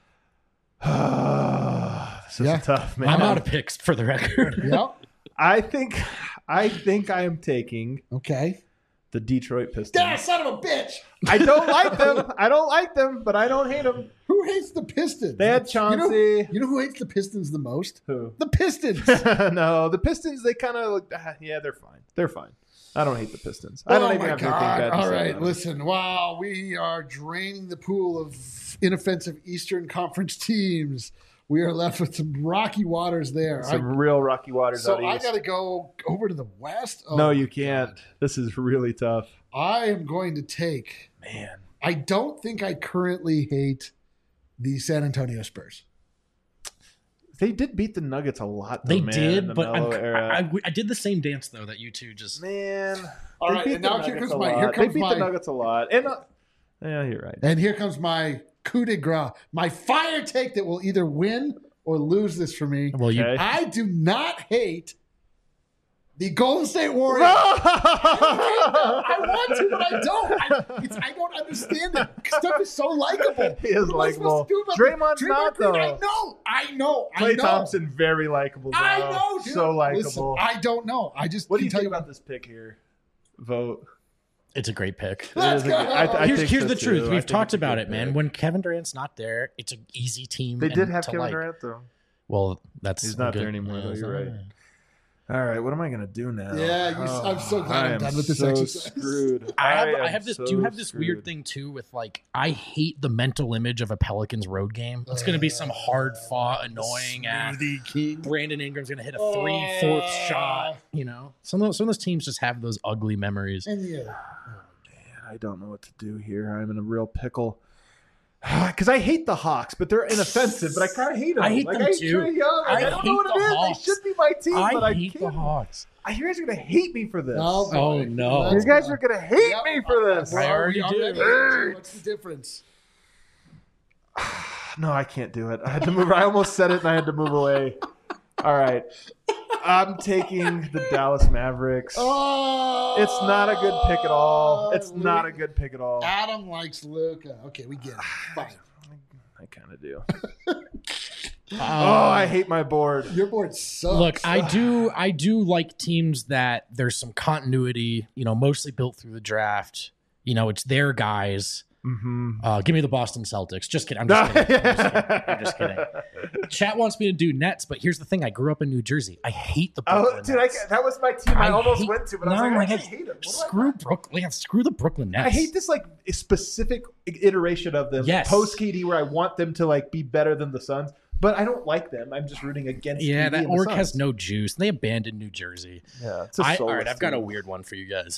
[SPEAKER 1] This is
[SPEAKER 2] Yeah.
[SPEAKER 1] tough, man.
[SPEAKER 3] I'm out of picks for the record.
[SPEAKER 2] Yep.
[SPEAKER 1] I think I am taking
[SPEAKER 2] Okay.
[SPEAKER 1] the Detroit Pistons.
[SPEAKER 2] Yeah, son of a bitch.
[SPEAKER 1] I don't like them. I don't like them, but I don't hate them.
[SPEAKER 2] Who hates the Pistons?
[SPEAKER 1] They had Chauncey.
[SPEAKER 2] You know who hates the Pistons the most?
[SPEAKER 1] Who?
[SPEAKER 2] The Pistons.
[SPEAKER 1] No, the Pistons. They kind of look. Yeah, they're fine. They're fine. I don't hate the Pistons. I don't
[SPEAKER 2] Oh
[SPEAKER 1] even
[SPEAKER 2] my
[SPEAKER 1] have anything
[SPEAKER 2] God.
[SPEAKER 1] bad to
[SPEAKER 2] All
[SPEAKER 1] say
[SPEAKER 2] right,
[SPEAKER 1] about them.
[SPEAKER 2] listen. Wow, we are draining the pool of inoffensive Eastern Conference teams. We are left with some rocky waters there.
[SPEAKER 1] Some real rocky waters
[SPEAKER 2] So
[SPEAKER 1] out
[SPEAKER 2] I
[SPEAKER 1] east.
[SPEAKER 2] got to go over to the West. Oh
[SPEAKER 1] No,
[SPEAKER 2] my
[SPEAKER 1] you can't.
[SPEAKER 2] God.
[SPEAKER 1] This is really tough.
[SPEAKER 2] I am going to take.
[SPEAKER 1] Man.
[SPEAKER 2] I don't think I currently hate the San Antonio Spurs.
[SPEAKER 1] They did beat the Nuggets a lot. Though,
[SPEAKER 3] They
[SPEAKER 1] man, in
[SPEAKER 3] did,
[SPEAKER 1] the
[SPEAKER 3] but
[SPEAKER 1] Melo era.
[SPEAKER 3] I did the same dance though that you two just.
[SPEAKER 1] Man.
[SPEAKER 2] All
[SPEAKER 1] They
[SPEAKER 2] right,
[SPEAKER 1] beat
[SPEAKER 2] and
[SPEAKER 1] the
[SPEAKER 2] now here
[SPEAKER 1] Nuggets
[SPEAKER 2] comes
[SPEAKER 1] a
[SPEAKER 2] my.
[SPEAKER 1] lot.
[SPEAKER 2] Here
[SPEAKER 1] They
[SPEAKER 2] comes
[SPEAKER 1] beat
[SPEAKER 2] my.
[SPEAKER 1] the Nuggets a lot. And Yeah, you're right.
[SPEAKER 2] And here comes my coup de grace, my fire take that will either win or lose this for me.
[SPEAKER 3] Well,
[SPEAKER 1] Okay.
[SPEAKER 2] I do not hate the Golden State Warriors.
[SPEAKER 1] No!
[SPEAKER 2] I want to, but I don't. I don't understand it. Steph is so likable.
[SPEAKER 1] He is
[SPEAKER 2] What am I supposed to do about
[SPEAKER 1] Draymond's
[SPEAKER 2] Draymond
[SPEAKER 1] not,
[SPEAKER 2] Green?
[SPEAKER 1] though.
[SPEAKER 2] I know.
[SPEAKER 1] Klay Thompson, very likable.
[SPEAKER 2] I know, dude.
[SPEAKER 1] So
[SPEAKER 2] Listen,
[SPEAKER 1] likable.
[SPEAKER 2] I don't know. I just
[SPEAKER 1] What do
[SPEAKER 2] can
[SPEAKER 1] you
[SPEAKER 2] tell
[SPEAKER 1] think about this pick here? Vote.
[SPEAKER 3] it's a great pick.
[SPEAKER 2] Let's
[SPEAKER 1] It is
[SPEAKER 2] go.
[SPEAKER 1] a good- I
[SPEAKER 3] Here's
[SPEAKER 1] think so,
[SPEAKER 3] the
[SPEAKER 1] too.
[SPEAKER 3] truth.
[SPEAKER 1] I
[SPEAKER 3] We've
[SPEAKER 1] think
[SPEAKER 3] talked
[SPEAKER 1] it's a
[SPEAKER 3] about
[SPEAKER 1] good
[SPEAKER 3] it, man.
[SPEAKER 1] pick.
[SPEAKER 3] When Kevin Durant's not there, it's an easy team.
[SPEAKER 1] They did have
[SPEAKER 3] to
[SPEAKER 1] Kevin
[SPEAKER 3] like.
[SPEAKER 1] Durant, though.
[SPEAKER 3] Well, that's
[SPEAKER 1] He's not
[SPEAKER 3] good.
[SPEAKER 1] there anymore, though.
[SPEAKER 3] it's
[SPEAKER 1] You're
[SPEAKER 3] not-
[SPEAKER 1] right. All right, what am I gonna do now?
[SPEAKER 2] Yeah, I'm so glad
[SPEAKER 1] I
[SPEAKER 2] I'm
[SPEAKER 1] am
[SPEAKER 2] done with this
[SPEAKER 1] so
[SPEAKER 2] exercise.
[SPEAKER 1] Screwed.
[SPEAKER 3] I
[SPEAKER 1] am
[SPEAKER 3] have this.
[SPEAKER 1] so
[SPEAKER 3] Do you have this weird
[SPEAKER 1] screwed.
[SPEAKER 3] thing too with like I hate the mental image of a Pelicans road game. It's going to be some hard fought, annoying ass.
[SPEAKER 2] Smoothie King.
[SPEAKER 3] Brandon Ingram's going to hit a 3/4 shot. You know, some of those teams just have those ugly memories.
[SPEAKER 2] And yeah.
[SPEAKER 1] I don't know what to do here. I'm in a real pickle. Because I hate the Hawks, but they're inoffensive. But I kind of hate them.
[SPEAKER 3] I hate
[SPEAKER 1] like,
[SPEAKER 3] them
[SPEAKER 1] I hate
[SPEAKER 3] too.
[SPEAKER 1] Trae Young. Like,
[SPEAKER 3] I
[SPEAKER 1] I don't
[SPEAKER 3] hate
[SPEAKER 1] know what
[SPEAKER 3] the
[SPEAKER 1] it is.
[SPEAKER 3] Hawks.
[SPEAKER 1] They should be my team, but I
[SPEAKER 3] hate the
[SPEAKER 1] can't.
[SPEAKER 3] Hawks.
[SPEAKER 1] You guys are gonna hate me for this.
[SPEAKER 2] Oh,
[SPEAKER 3] Oh,
[SPEAKER 2] boy.
[SPEAKER 3] no.
[SPEAKER 2] Let's
[SPEAKER 1] You guys
[SPEAKER 2] go.
[SPEAKER 1] are gonna hate
[SPEAKER 2] Yep.
[SPEAKER 1] me for this.
[SPEAKER 3] I already do.
[SPEAKER 2] Already. What's the difference?
[SPEAKER 1] No, I can't do it. I had to move. I almost said it and I had to move away. All right. I'm taking the Dallas Mavericks.
[SPEAKER 2] Oh,
[SPEAKER 1] It's not a good pick at all. It's not a good pick at all.
[SPEAKER 2] Adam likes Luka. Okay, we get it. Fine.
[SPEAKER 1] I kind of do.
[SPEAKER 3] Oh,
[SPEAKER 1] I hate my board.
[SPEAKER 2] Your board sucks.
[SPEAKER 3] Look, I do like teams that there's some continuity, you know, mostly built through the draft. You know, it's their guys.
[SPEAKER 1] Mm-hmm.
[SPEAKER 3] Give me the Boston Celtics. Just kidding. I'm just kidding. I'm just kidding. Chat wants me to do Nets, but here's the thing. I grew up in New Jersey. I hate the Brooklyn
[SPEAKER 1] Oh, dude,
[SPEAKER 3] Nets.
[SPEAKER 1] that was my team. I almost
[SPEAKER 3] hate-
[SPEAKER 1] went to, but I was
[SPEAKER 3] no,
[SPEAKER 1] like, I
[SPEAKER 3] like,
[SPEAKER 1] can't hate them.
[SPEAKER 3] Screw Brooklyn. Yeah, screw the Brooklyn Nets.
[SPEAKER 1] I hate this like specific iteration of them.
[SPEAKER 3] Yes.
[SPEAKER 1] Post KD, where I want them to like be better than the Suns, but I don't like them. I'm just rooting against.
[SPEAKER 3] Yeah,
[SPEAKER 1] KD
[SPEAKER 3] that
[SPEAKER 1] and the
[SPEAKER 3] org
[SPEAKER 1] Suns.
[SPEAKER 3] has no juice. They abandoned New Jersey.
[SPEAKER 1] Yeah, it's a
[SPEAKER 3] All right,
[SPEAKER 1] soulless
[SPEAKER 3] I've got a
[SPEAKER 1] team.
[SPEAKER 3] weird one for you guys.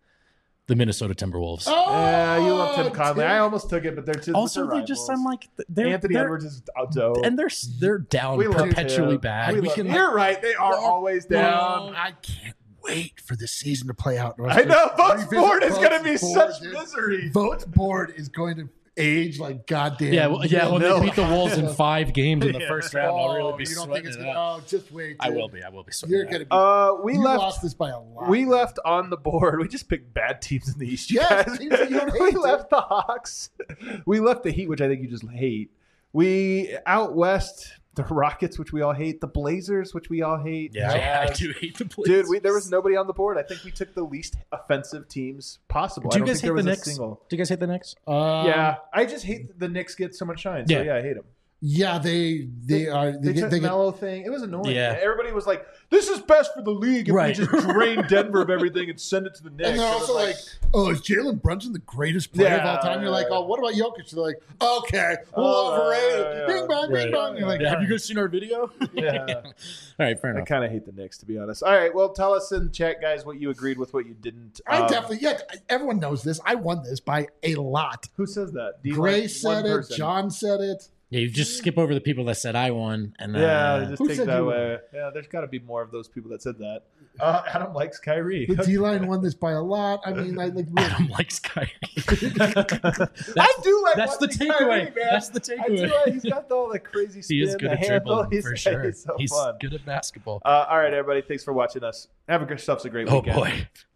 [SPEAKER 3] The Minnesota Timberwolves.
[SPEAKER 2] Oh,
[SPEAKER 1] You love Tim Conley. I almost took it, but they're too.
[SPEAKER 3] Also,
[SPEAKER 1] they're
[SPEAKER 3] they just
[SPEAKER 1] rivals.
[SPEAKER 3] I'm like they're
[SPEAKER 1] Anthony
[SPEAKER 3] they're,
[SPEAKER 1] Edwards is dope.
[SPEAKER 3] and they're down
[SPEAKER 1] We love
[SPEAKER 3] perpetually
[SPEAKER 1] him.
[SPEAKER 3] bad.
[SPEAKER 1] We
[SPEAKER 3] We
[SPEAKER 1] love
[SPEAKER 3] can
[SPEAKER 1] him. You're right. They are always down.
[SPEAKER 2] I can't wait for the season to play out.
[SPEAKER 1] I know. Votes
[SPEAKER 2] Revisit
[SPEAKER 1] board is going to be
[SPEAKER 2] Votes board,
[SPEAKER 1] such
[SPEAKER 2] dude.
[SPEAKER 1] misery.
[SPEAKER 2] Votes board is going to age like goddamn.
[SPEAKER 3] when
[SPEAKER 1] No.
[SPEAKER 3] they beat the Wolves in 5 games in the first round, I'll really be
[SPEAKER 2] you don't
[SPEAKER 3] sweating
[SPEAKER 2] think it's
[SPEAKER 3] it
[SPEAKER 2] gonna?
[SPEAKER 3] out.
[SPEAKER 2] Oh, just wait.
[SPEAKER 3] I
[SPEAKER 2] dude.
[SPEAKER 3] will be sweating
[SPEAKER 2] You're
[SPEAKER 3] it
[SPEAKER 2] gonna
[SPEAKER 3] out.
[SPEAKER 2] be.
[SPEAKER 1] We
[SPEAKER 2] You
[SPEAKER 1] left.
[SPEAKER 2] lost this by a lot.
[SPEAKER 1] We left on the board. We just picked bad teams in the East. You
[SPEAKER 2] Yes,
[SPEAKER 1] guys.
[SPEAKER 2] teams that you don't hate,
[SPEAKER 1] We
[SPEAKER 2] dude.
[SPEAKER 1] left the Hawks. We left the Heat, which I think you just hate. We out west the Rockets, which we all hate. The Blazers, which we all hate.
[SPEAKER 3] Yeah, I
[SPEAKER 1] Jazz.
[SPEAKER 3] do hate the Blazers.
[SPEAKER 1] Dude, there was nobody on the board. I think we took the least offensive teams possible.
[SPEAKER 3] Do
[SPEAKER 1] I
[SPEAKER 3] you
[SPEAKER 1] don't
[SPEAKER 3] guys
[SPEAKER 1] think there
[SPEAKER 3] hate the
[SPEAKER 1] was
[SPEAKER 3] Knicks?
[SPEAKER 1] a single.
[SPEAKER 3] Do you guys hate the Knicks?
[SPEAKER 1] Yeah, I just hate the Knicks get so much shine. So
[SPEAKER 3] Yeah.
[SPEAKER 1] yeah, I hate them.
[SPEAKER 2] Yeah, they are.
[SPEAKER 1] They took
[SPEAKER 2] They get,
[SPEAKER 1] Melo thing. It was annoying.
[SPEAKER 3] Yeah.
[SPEAKER 1] Everybody was like, "This is best for the league if
[SPEAKER 3] Right.
[SPEAKER 1] we just drain Denver of everything and send it to the Knicks."
[SPEAKER 2] and they're
[SPEAKER 1] It was
[SPEAKER 2] also like, "Oh, is Jalen Brunson the greatest player of all time?" You're like, "Oh, what about Jokic?" They're like, "Okay, well, overrated."
[SPEAKER 1] yeah.
[SPEAKER 2] Bing bong, bing
[SPEAKER 3] Right.
[SPEAKER 2] bong. You're like,
[SPEAKER 3] Have you guys seen our video?
[SPEAKER 1] yeah.
[SPEAKER 3] All right, fair
[SPEAKER 1] I
[SPEAKER 3] enough.
[SPEAKER 1] kind of hate the Knicks, to be honest. All right, well, tell us in the chat, guys, what you agreed with, what you didn't.
[SPEAKER 2] I definitely, yeah, everyone knows this. I won this by a lot.
[SPEAKER 1] Who says that? Do you
[SPEAKER 2] Gray
[SPEAKER 1] like
[SPEAKER 2] said
[SPEAKER 1] one
[SPEAKER 2] it.
[SPEAKER 1] person?
[SPEAKER 2] John said it.
[SPEAKER 3] Yeah, you just skip over the people that said I won, and then
[SPEAKER 1] Yeah, just
[SPEAKER 2] Who
[SPEAKER 1] take
[SPEAKER 2] said
[SPEAKER 1] that
[SPEAKER 2] you
[SPEAKER 1] away. Yeah, there's got to be more of those people that said that. Adam likes Kyrie.
[SPEAKER 2] The D line won this by a lot. I mean, I like.
[SPEAKER 3] Adam likes Kyrie.
[SPEAKER 1] I do like.
[SPEAKER 3] That's the
[SPEAKER 1] watching
[SPEAKER 3] takeaway.
[SPEAKER 1] Kyrie, man.
[SPEAKER 3] That's the
[SPEAKER 1] I do
[SPEAKER 3] takeaway.
[SPEAKER 1] like, he's got all the crazy spin.
[SPEAKER 3] He is good
[SPEAKER 1] the
[SPEAKER 3] at
[SPEAKER 1] handle.
[SPEAKER 3] dribbling for sure.
[SPEAKER 1] He's so
[SPEAKER 3] He's
[SPEAKER 1] fun.
[SPEAKER 3] good at basketball.
[SPEAKER 1] All right, everybody. Thanks for watching us. Have yourselves a great
[SPEAKER 3] Oh
[SPEAKER 1] weekend.
[SPEAKER 3] boy.